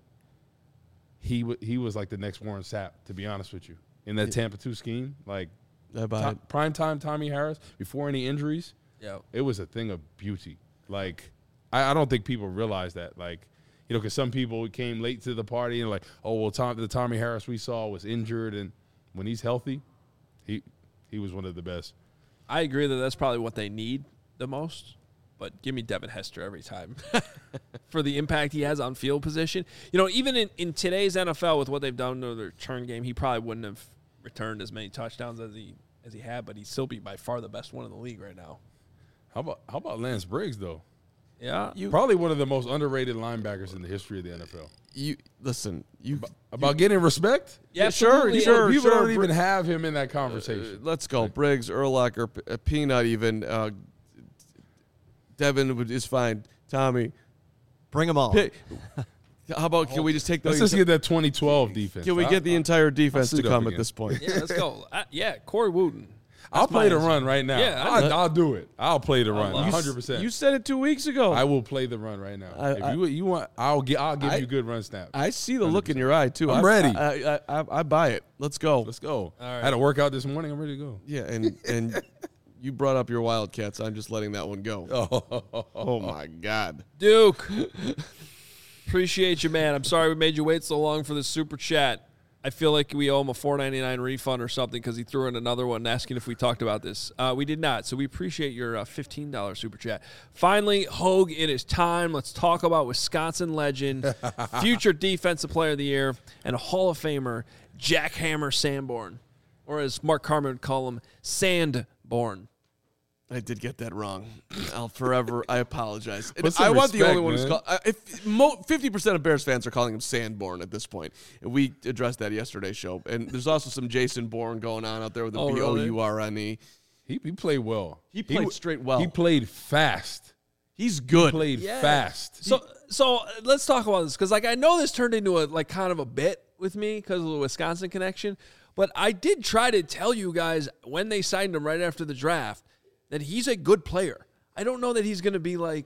he was like the next Warren Sapp, to be honest with you, in that Tampa 2 scheme. Like, primetime Tommy Harris before any injuries.
Yeah,
it was a thing of beauty. Like, I don't think people realize that. Like, because some people came late to the party and like, oh well, the Tommy Harris we saw was injured, and when he's healthy, he was one of the best.
I agree that that's probably what they need the most, but give me Devin Hester every time for the impact he has on field position. You know, even in today's NFL with what they've done to their return game, he probably wouldn't have returned as many touchdowns as he had, but he'd still be by far the best one in the league right now.
How about Lance Briggs though?
Yeah,
probably one of the most underrated linebackers in the history of the NFL.
About
getting respect?
Yeah, sure.
People don't even have him in that conversation.
Let's go. Briggs, Urlacher, Peanut even. Devin is fine. Tommy.
Bring them all.
How about, can we just take
Let's just get that 2012 defense.
Can we get the entire defense to come at this point?
Yeah, let's go. Corey Wooten.
I'll play the run right now. Yeah, I'll do it. I'll play the run 100%.
You said it 2 weeks ago.
I will play the run right now. If you want, I'll give you good run snaps.
I see the 100%. Look in your eye too.
I'm ready.
I buy it. Let's go.
Let's go. All right. I had a workout this morning. I'm ready to go.
Yeah, and you brought up your Wildcats. I'm just letting that one go. Oh my God,
Duke. Appreciate you, man. I'm sorry we made you wait so long for the super chat. I feel like we owe him a $4.99 refund or something because he threw in another one asking if we talked about this. We did not, so we appreciate your $15 super chat. Finally, Hogue, it is time. Let's talk about Wisconsin legend, future Defensive Player of the Year, and a Hall of Famer, Jackhammer Sanborn, or as Mark Carman would call him, Sandborn.
I did get that wrong. I apologize.
I want the only
one who's called. 50% of Bears fans are calling him Sanborn at this point. And we addressed that yesterday's show. And there's also some Jason Bourne going on out there with the Bourne.
He played well.
He played straight well.
He played fast.
He's good.
He played fast.
So let's talk about this because I know this turned into a kind of a bit with me because of the Wisconsin connection. But I did try to tell you guys when they signed him right after the draft that he's a good player. I don't know that he's going to be one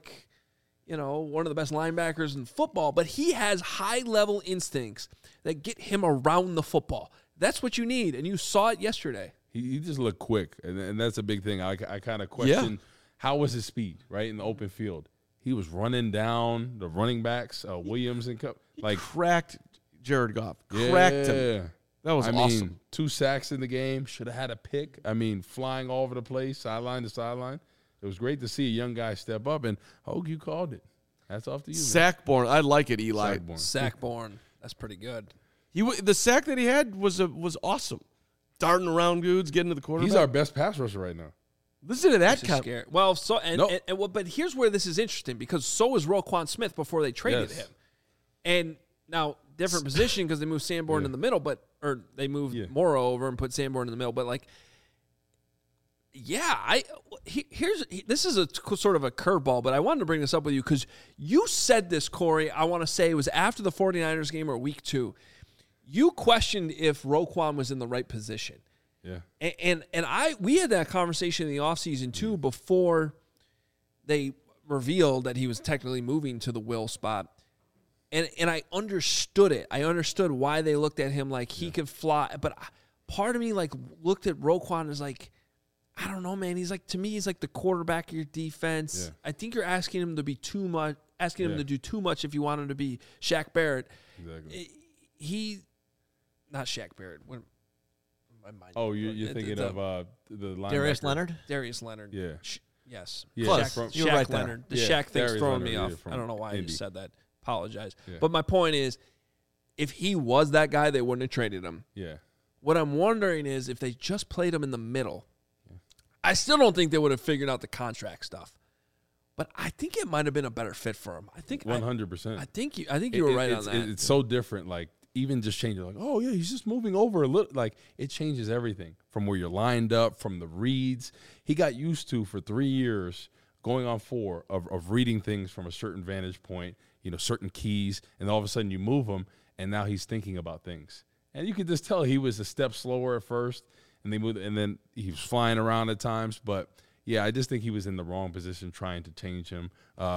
of the best linebackers in football, but he has high-level instincts that get him around the football. That's what you need, and you saw it yesterday.
He just looked quick, and that's a big thing. I kind of question how was his speed, right, in the open field. He was running down the running backs, Williams and Cup.
Cracked Jared Goff. Cracked him. That was awesome.
2 sacks in the game. Should have had a pick. Flying all over the place, sideline to sideline. It was great to see a young guy step up, and Hogue, you called it. Hats off to you.
Sackborn. I like it, Eli.
Sackborn. That's pretty good.
The sack that he had was awesome. Darting around dudes, getting to the quarterback.
He's our best pass rusher right now.
Listen to that guy.
Scary. Well, but here's where this is interesting because so was Roquan Smith before they traded him, and now different position because they moved Sanborn in the middle, or they moved Morrow over and put Sanborn in the middle. But this is a sort of a curveball, but I wanted to bring this up with you because you said this, Corey. I want to say it was after the 49ers game or week 2. You questioned if Roquan was in the right position.
Yeah.
And we had that conversation in the offseason too before they revealed that he was technically moving to the Will spot. And I understood it. I understood why they looked at him like he could fly. But part of me looked at Roquan as I don't know, man. He's to me, he's the quarterback of your defense. Yeah. I think you're asking him to be too much, him to do too much if you want him to be Shaq Barrett.
Exactly.
Not Shaq Barrett.
You're thinking of the linebacker.
Darius Leonard?
Darius Leonard.
Yeah.
Yes.
Yeah.
Shaq
right
Leonard. The Shaq thing's throwing me off. I don't know why you said that. Apologize. Yeah. But my point is, if he was that guy, they wouldn't have traded him.
Yeah.
What I'm wondering is if they just played him in the middle, I still don't think they would have figured out the contract stuff. But I think it might have been a better fit for him. I think
100%.
I think you were right on that.
It's so different. Even just changing, he's just moving over a little. It changes everything from where you're lined up, from the reads. He got used to for 3 years, going on 4 of reading things from a certain vantage point. Certain keys, and all of a sudden you move him, and now he's thinking about things. And you could just tell he was a step slower at first, and they moved, and then he was flying around at times. But I just think he was in the wrong position trying to change him.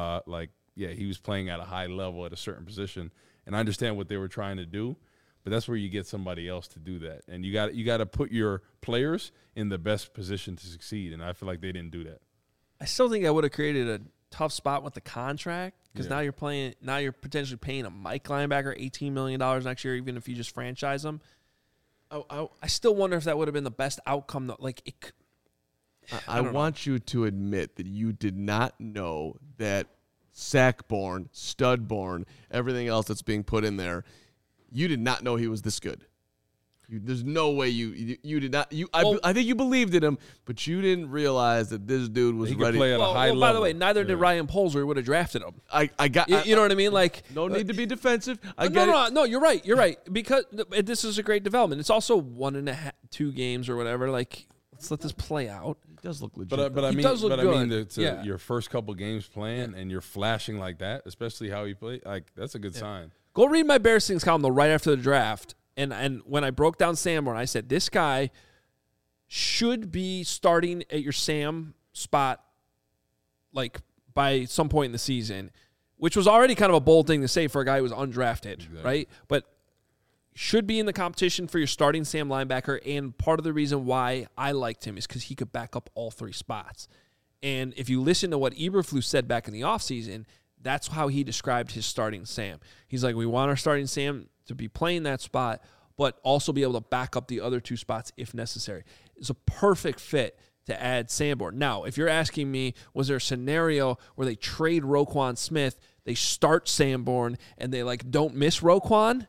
He was playing at a high level at a certain position, and I understand what they were trying to do, but that's where you get somebody else to do that, and you got to put your players in the best position to succeed, and I feel like they didn't do that.
I still think I would have created a tough spot with the contract because now you're potentially paying a Mike linebacker $18 million next year, even if you just franchise him. I still wonder if that would have been the best outcome though.
I want you to admit that you did not know that Sackborn, Studborn, everything else that's being put in there, you did not know he was this good. There's no way you did not. I think you believed in him, but you didn't realize that this dude was ready.
Play at a high level.
By the way, neither did Ryan Poles, or he would have drafted him.
You
know what I mean? Like,
no need to be defensive.
No, you're right. You're right, because this is a great development. It's also 1.5, 2 games or whatever. Like, let's let this play out.
He does look legit.
But I mean,
does look good.
Your first couple games playing and you're flashing like that, especially how he played, like that's a good sign.
Go read my Bears Things column though right after the draft. And when I broke down Sanborn, I said, this guy should be starting at your Sam spot like by some point in the season, which was already kind of a bold thing to say for a guy who was undrafted, right? But should be in the competition for your starting Sam linebacker, and part of the reason why I liked him is because he could back up all 3 spots. And if you listen to what Eberflus said back in the offseason, that's how he described his starting Sam. He's like, we want our starting Sam to be playing that spot, but also be able to back up the other 2 spots if necessary. It's a perfect fit to add Sanborn. Now, if you're asking me, was there a scenario where they trade Roquan Smith, they start Sanborn, and they don't miss Roquan?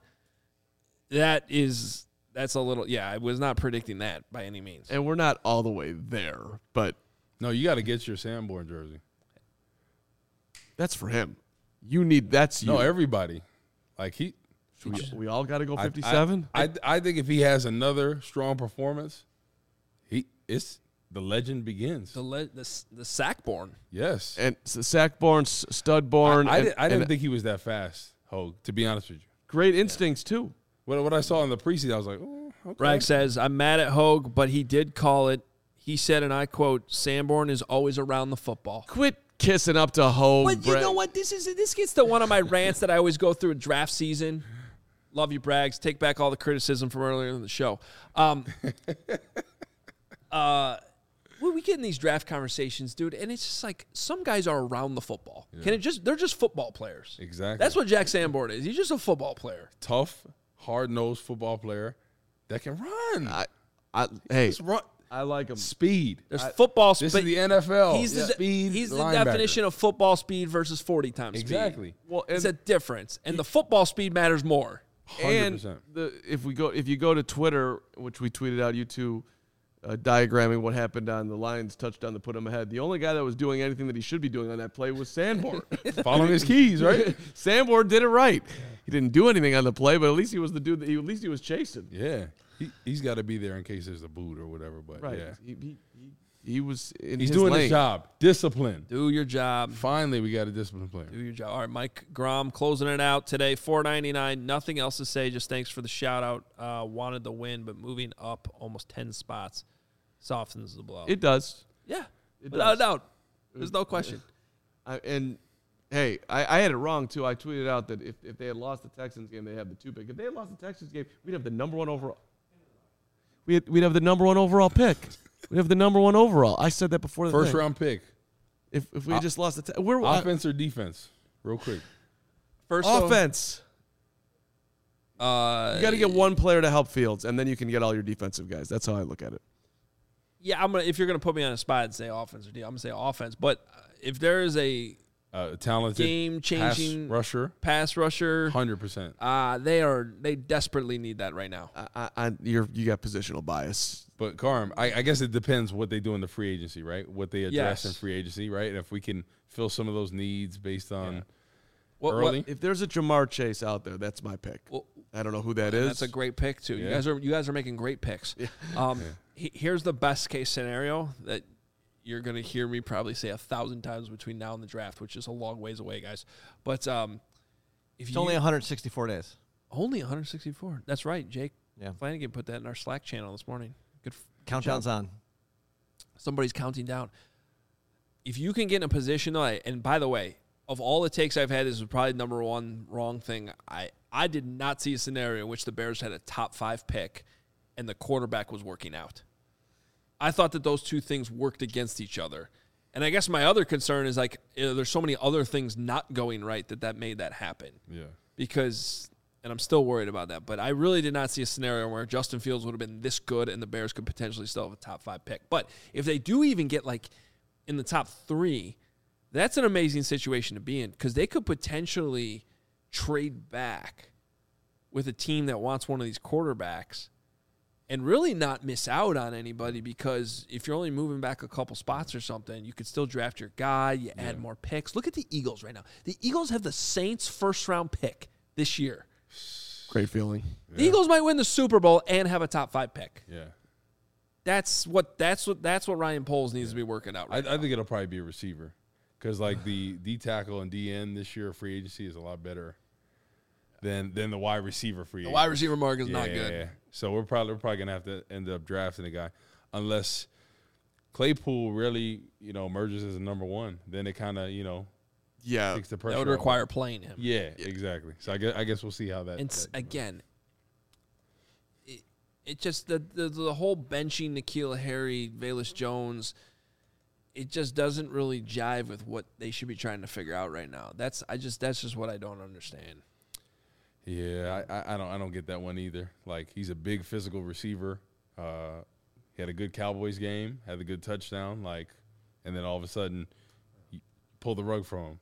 That's a little, I was not predicting that by any means.
And we're not all the way there, but.
No, you got to get your Sanborn jersey.
That's for him. That's you.
No, everybody. Like
we all got to go 57?
I think if he has another strong performance, the legend begins.
The Sackborn.
Yes.
And Sackborn, Studborn.
I didn't think he was that fast, Hogue, to be honest with you.
Great instincts, too.
What I saw in the preseason, I was like, oh, okay.
Bragg says, I'm mad at Hogue, but he did call it. He said, and I quote, Sanborn is always around the football.
Quit kissing up to Hogue.
But you know what? This gets to one of my rants that I always go through in draft season. Love you, Braggs. Take back all the criticism from earlier in the show. We get in these draft conversations, dude, and it's just like some guys are around the football. Yeah. They're just football players.
Exactly.
That's what Jack Sanborn is. He's just a football player.
Tough, hard-nosed football player that can run.
Run. I like him.
Speed.
There's football speed.
This is the NFL.
He's the definition of football speed versus 40 times speed.
Exactly.
Well, it's a difference, and the football speed matters more.
100%.
And if you go to Twitter, which we tweeted out, you two diagramming what happened on the Lions touchdown that put him ahead. The only guy that was doing anything that he should be doing on that play was Sanborn.
Following his keys, right?
Sanborn did it right. He didn't do anything on the play, but at least he was the dude that at least he was chasing.
Yeah. He's got to be there in case there's a boot or whatever. But
right.
Yeah.
He was in
He's
his
doing
lane.
his job. Discipline.
Do your job.
Finally, we got a disciplined player.
Do your job. All right, Mike Grom closing it out today. $4.99. Nothing else to say. Just thanks for the shout out. Wanted the win, but moving up almost 10 spots softens the blow.
It does.
Yeah. Without a doubt. There's no question.
And hey, I had it wrong too. I tweeted out that if they had lost the Texans game, they had the 2 pick. If they had lost the Texans game, we'd have the number 1 overall. We'd have the number 1 overall pick. We have the number 1 overall. I said that before the
first round pick.
If we had just lost the
offense or defense, real quick.
First offense. You got to get one player to help Fields, and then you can get all your defensive guys. That's how I look at it.
Yeah, if you're gonna put me on a spot and say offense or defense, I'm gonna say offense. But if there is a
talented
game-changing pass rusher,
100%.
They desperately need that right now.
You got positional bias.
But Carm, I guess it depends what they do in the free agency, right? What they address in free agency, right? And if we can fill some of those needs based on early.
If there's a Jamar Chase out there, that's my pick. Well, I don't know who that is.
That's a great pick too. Yeah. You guys are making great picks. Yeah. Here's the best case scenario that you're going to hear me probably say 1,000 times between now and the draft, which is a long ways away, guys. But
it's only 164 days.
Only 164. That's right, Jake. Yeah. Flanagan put that in our Slack channel this morning. Good.
Countdown's on.
Somebody's counting down. If you can get in a position, though, and by the way, of all the takes I've had, this is probably number 1 wrong thing. I did not see a scenario in which the Bears had a top 5 pick and the quarterback was working out. I thought that those two things worked against each other. And I guess my other concern is there's so many other things not going right that made that happen.
Yeah.
Because and I'm still worried about that. But I really did not see a scenario where Justin Fields would have been this good and the Bears could potentially still have a top 5 pick. But if they do even get like in the top 3, that's an amazing situation to be in because they could potentially trade back with a team that wants one of these quarterbacks and really not miss out on anybody because if you're only moving back a couple spots or something, you could still draft your guy, you add more picks. Look at the Eagles right now. The Eagles have the Saints' first-round pick this year.
Great feeling.
The Eagles might win the Super Bowl and have a top 5 pick.
Yeah.
That's what Ryan Poles needs to be working out right now.
I think it'll probably be a receiver because like the D tackle and DN this year free agency is a lot better than the wide receiver free agency.
The wide receiver market is not good.
Yeah. So we're probably gonna have to end up drafting a guy unless Claypool really emerges as a number 1. Then it kind of takes the pressure.
That would require playing him.
Yeah, exactly. So I guess we'll see how that.
And again, it just the whole benching N'Keal Harry, Velus Jones, it just doesn't really jive with what they should be trying to figure out right now. That's just what I don't understand.
Yeah, I don't get that one either. Like he's a big physical receiver. He had a good Cowboys game, had a good touchdown, and then all of a sudden, you pull the rug from him.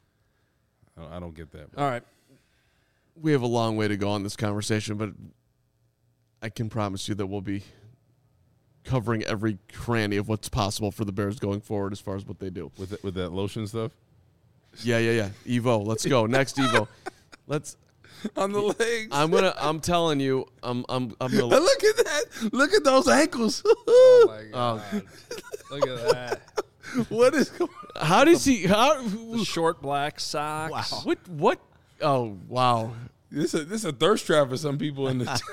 I don't get that.
All right,
we have a long way to go on this conversation, but I can promise you that we'll be covering every cranny of what's possible for the Bears going forward as far as what they do
with that lotion stuff.
Yeah. Evo, let's go next. Evo, let's.
On the legs.
I'm telling you, I'm gonna
look at that. Look at those ankles.
Oh my God. Look at that.
What is going on?
How does he
the short black socks.
Wow. What oh wow.
This is a thirst trap for some people in the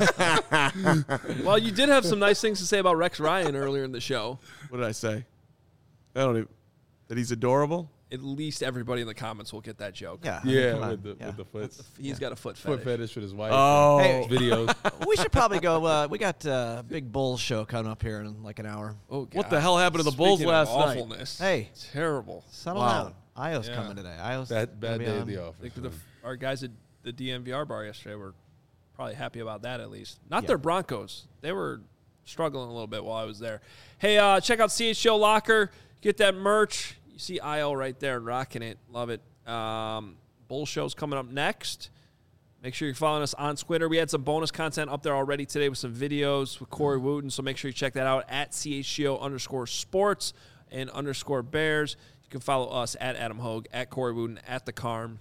Well, you did have some nice things to say about Rex Ryan earlier in the show.
What did I say? I don't even that he's adorable?
At least everybody in the comments will get that joke.
with the foot.
He's got a foot
fetish with his wife.
Oh,
hey,
videos.
We should probably go. We got a big Bulls show coming up here in like an hour.
Oh, God.
What the hell happened to the Bulls last night?
Awfulness.
Hey,
terrible.
Settle down. Io's coming today. Io's
bad day at the office.
I think our guys at the DNVR bar yesterday were probably happy about that at least. Not their Broncos. They were struggling a little bit while I was there. Hey, check out CHGO Locker. Get that merch. You see IO right there rocking it. Love it. Bull show's coming up next. Make sure you're following us on Twitter. We had some bonus content up there already today with some videos with Corey Wooten, so make sure you check that out at CHGO_sports and _Bears. You can follow us at Adam Hogue, at Corey Wooten, at The Carm.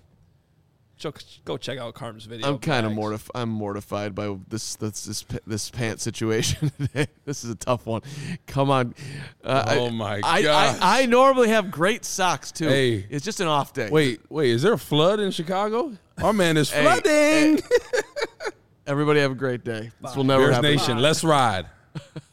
Go check out Carm's video.
I'm kind of mortified by this pant situation today. This is a tough one. Come on.
My God.
I normally have great socks too.
Hey.
It's just an off day.
Wait, is there a flood in Chicago? Our man is flooding.
Everybody have a great day. This will never
Bears
happen.
Nation, let's ride.